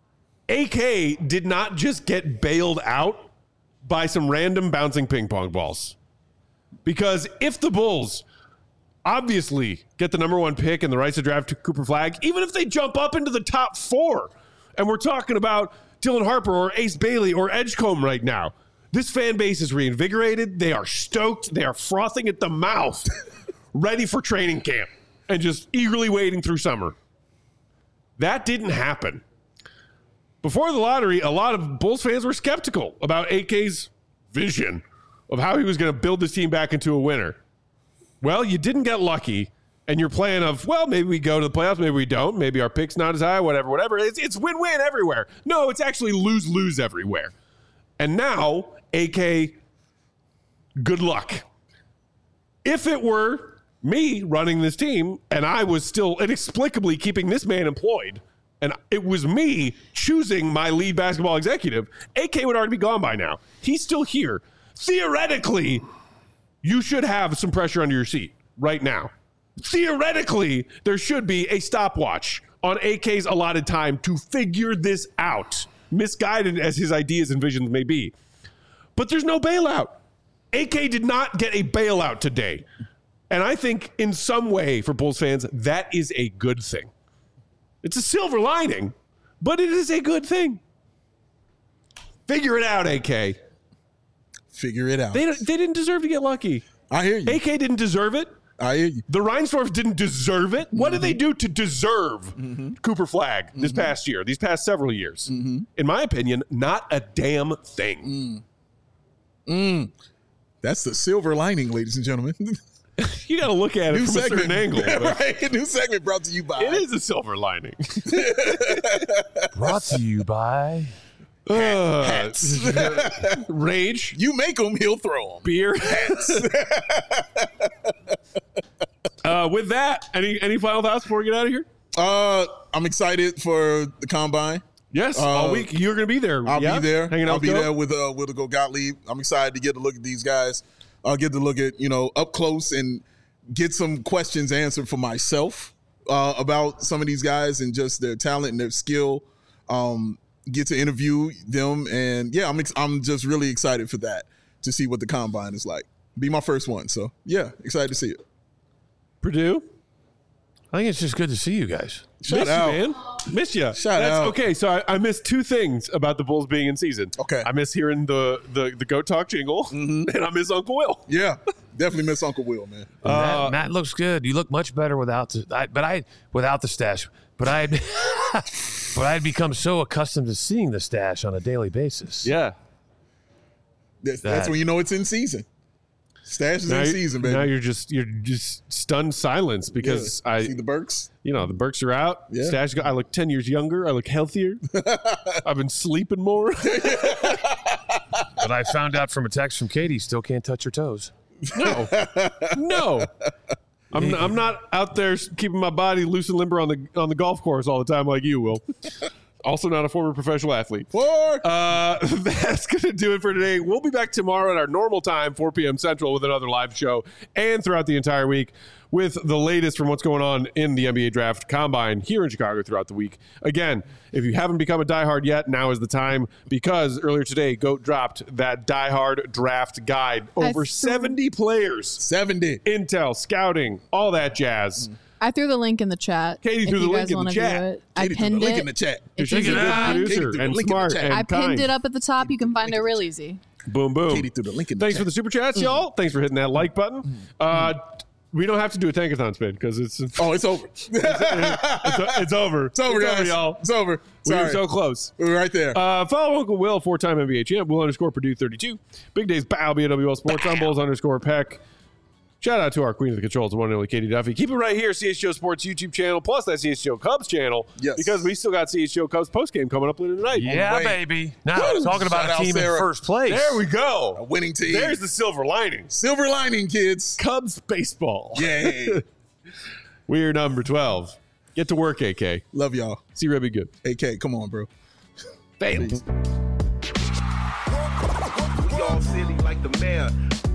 AK did not just get bailed out by some random bouncing ping pong balls. Because if the Bulls obviously get the number 1 pick and the rights to draft Cooper Flagg, even if they jump up into the top 4, and we're talking about Dylan Harper or Ace Bailey or Edgecombe right now, this fan base is reinvigorated. They are stoked. They are frothing at the mouth, ready for training camp and just eagerly waiting through summer. That didn't happen. Before the lottery, a lot of Bulls fans were skeptical about AK's vision of how he was going to build this team back into a winner. Well, you didn't get lucky, and your plan of, well, maybe we go to the playoffs, maybe we don't, maybe our pick's not as high, whatever. It's win-win everywhere. No, it's actually lose-lose everywhere. And now, AK, good luck. If it were me running this team, and I was still inexplicably keeping this man employed, and it was me choosing my lead basketball executive, AK would already be gone by now. He's still here. Theoretically, you should have some pressure under your seat right now. Theoretically, there should be a stopwatch on AK's allotted time to figure this out, misguided as his ideas and visions may be. But there's no bailout. AK did not get a bailout today. And I think in some way for Bulls fans, that is a good thing. It's a silver lining, but it is a good thing. Figure it out, AK. Figure it out. They didn't deserve to get lucky. I hear you. AK didn't deserve it. I hear you. The Reinsdorf didn't deserve it. What did they do to deserve Cooper Flagg this past year, these past several years? In my opinion, not a damn thing. That's the silver lining, ladies and gentlemen. You got to look at it New from a segment. certain angle. but Right? New segment brought to you by. It is a silver lining. Brought to you by Hats. Rage, You make them, he'll throw them. beer, hats. With that, any final thoughts before we get out of here? I'm excited for the combine. Yes, all week you're going to be there. I'll yeah? be there. Hanging out I'll be with Go? there with the Go Gottlieb. I'm excited to get to look at these guys. I'll get to look at, up close and get some questions answered for myself about some of these guys and just their talent and their skill. Get to interview them. And yeah, I'm just really excited for that, to see what the combine is like. Be my first one. So yeah, excited to see it. Purdue? I think it's just good to see you guys. Shout Miss out. you, man. Miss you. Shout out. Okay, so I missed 2 things about the Bulls being in season. Okay. I miss hearing the Goat Talk jingle, and I miss Uncle Will. Yeah, definitely miss Uncle Will, man. Matt looks good. You look much better without the stash. But I'd become so accustomed to seeing the stash on a daily basis. Yeah. That's when you know it's in season. Stash is in season, baby. Now you're just stunned silence because See the Burks? the Burks are out. Yeah. Stash, I look 10 years younger. I look healthier. I've been sleeping more. But I found out from a text from Katie, still can't touch her toes. No. I'm not out there keeping my body loose and limber on the golf course all the time like you will. Also not a former professional athlete. That's going to do it for today. We'll be back tomorrow at our normal time, 4 p.m. Central, with another live show, and throughout the entire week with the latest from what's going on in the NBA Draft Combine here in Chicago throughout the week. Again, if you haven't become a diehard yet, now is the time, because earlier today, GOAT dropped that diehard draft guide. Over 70 players. 70. Intel, scouting, all that jazz. I threw the link in the chat. Katie threw the link in the chat. I Katie threw the pinned link it. in the chat. It's She's a easy good to find. producer Katie threw the and link in the smart chat. and I kind. pinned it up at the top. You can find it real easy. Boom, boom. Katie threw the link in the Thanks chat. for the super chats, y'all. Thanks for hitting that like button. We don't have to do a tankathon spin because it's it's over. it's over. It's over, guys. Y'all. It's over. We Sorry. were so close. We're right there. Follow Uncle Will, 4-time NBA champ, Will _Purdue 32. Big Days Bow, BWL Sports, on Bulls _Peck. Shout out to our queen of the controls, the one and only Katie Duffy. Keep it right here, CHGO Sports YouTube channel, plus that CHGO Cubs channel. Yes. Because we still got CHGO Cubs postgame coming up later tonight. Yeah, Wait. baby. Now, Woo! talking about Shout a out team Sarah. in first place. There we A go. winning team. There's the silver lining. Silver lining, kids. Cubs baseball. Yay. We're number 12. Get to work, AK. Love y'all. See Rebby good. AK, come on, bro. Failed. We all silly like the mayor.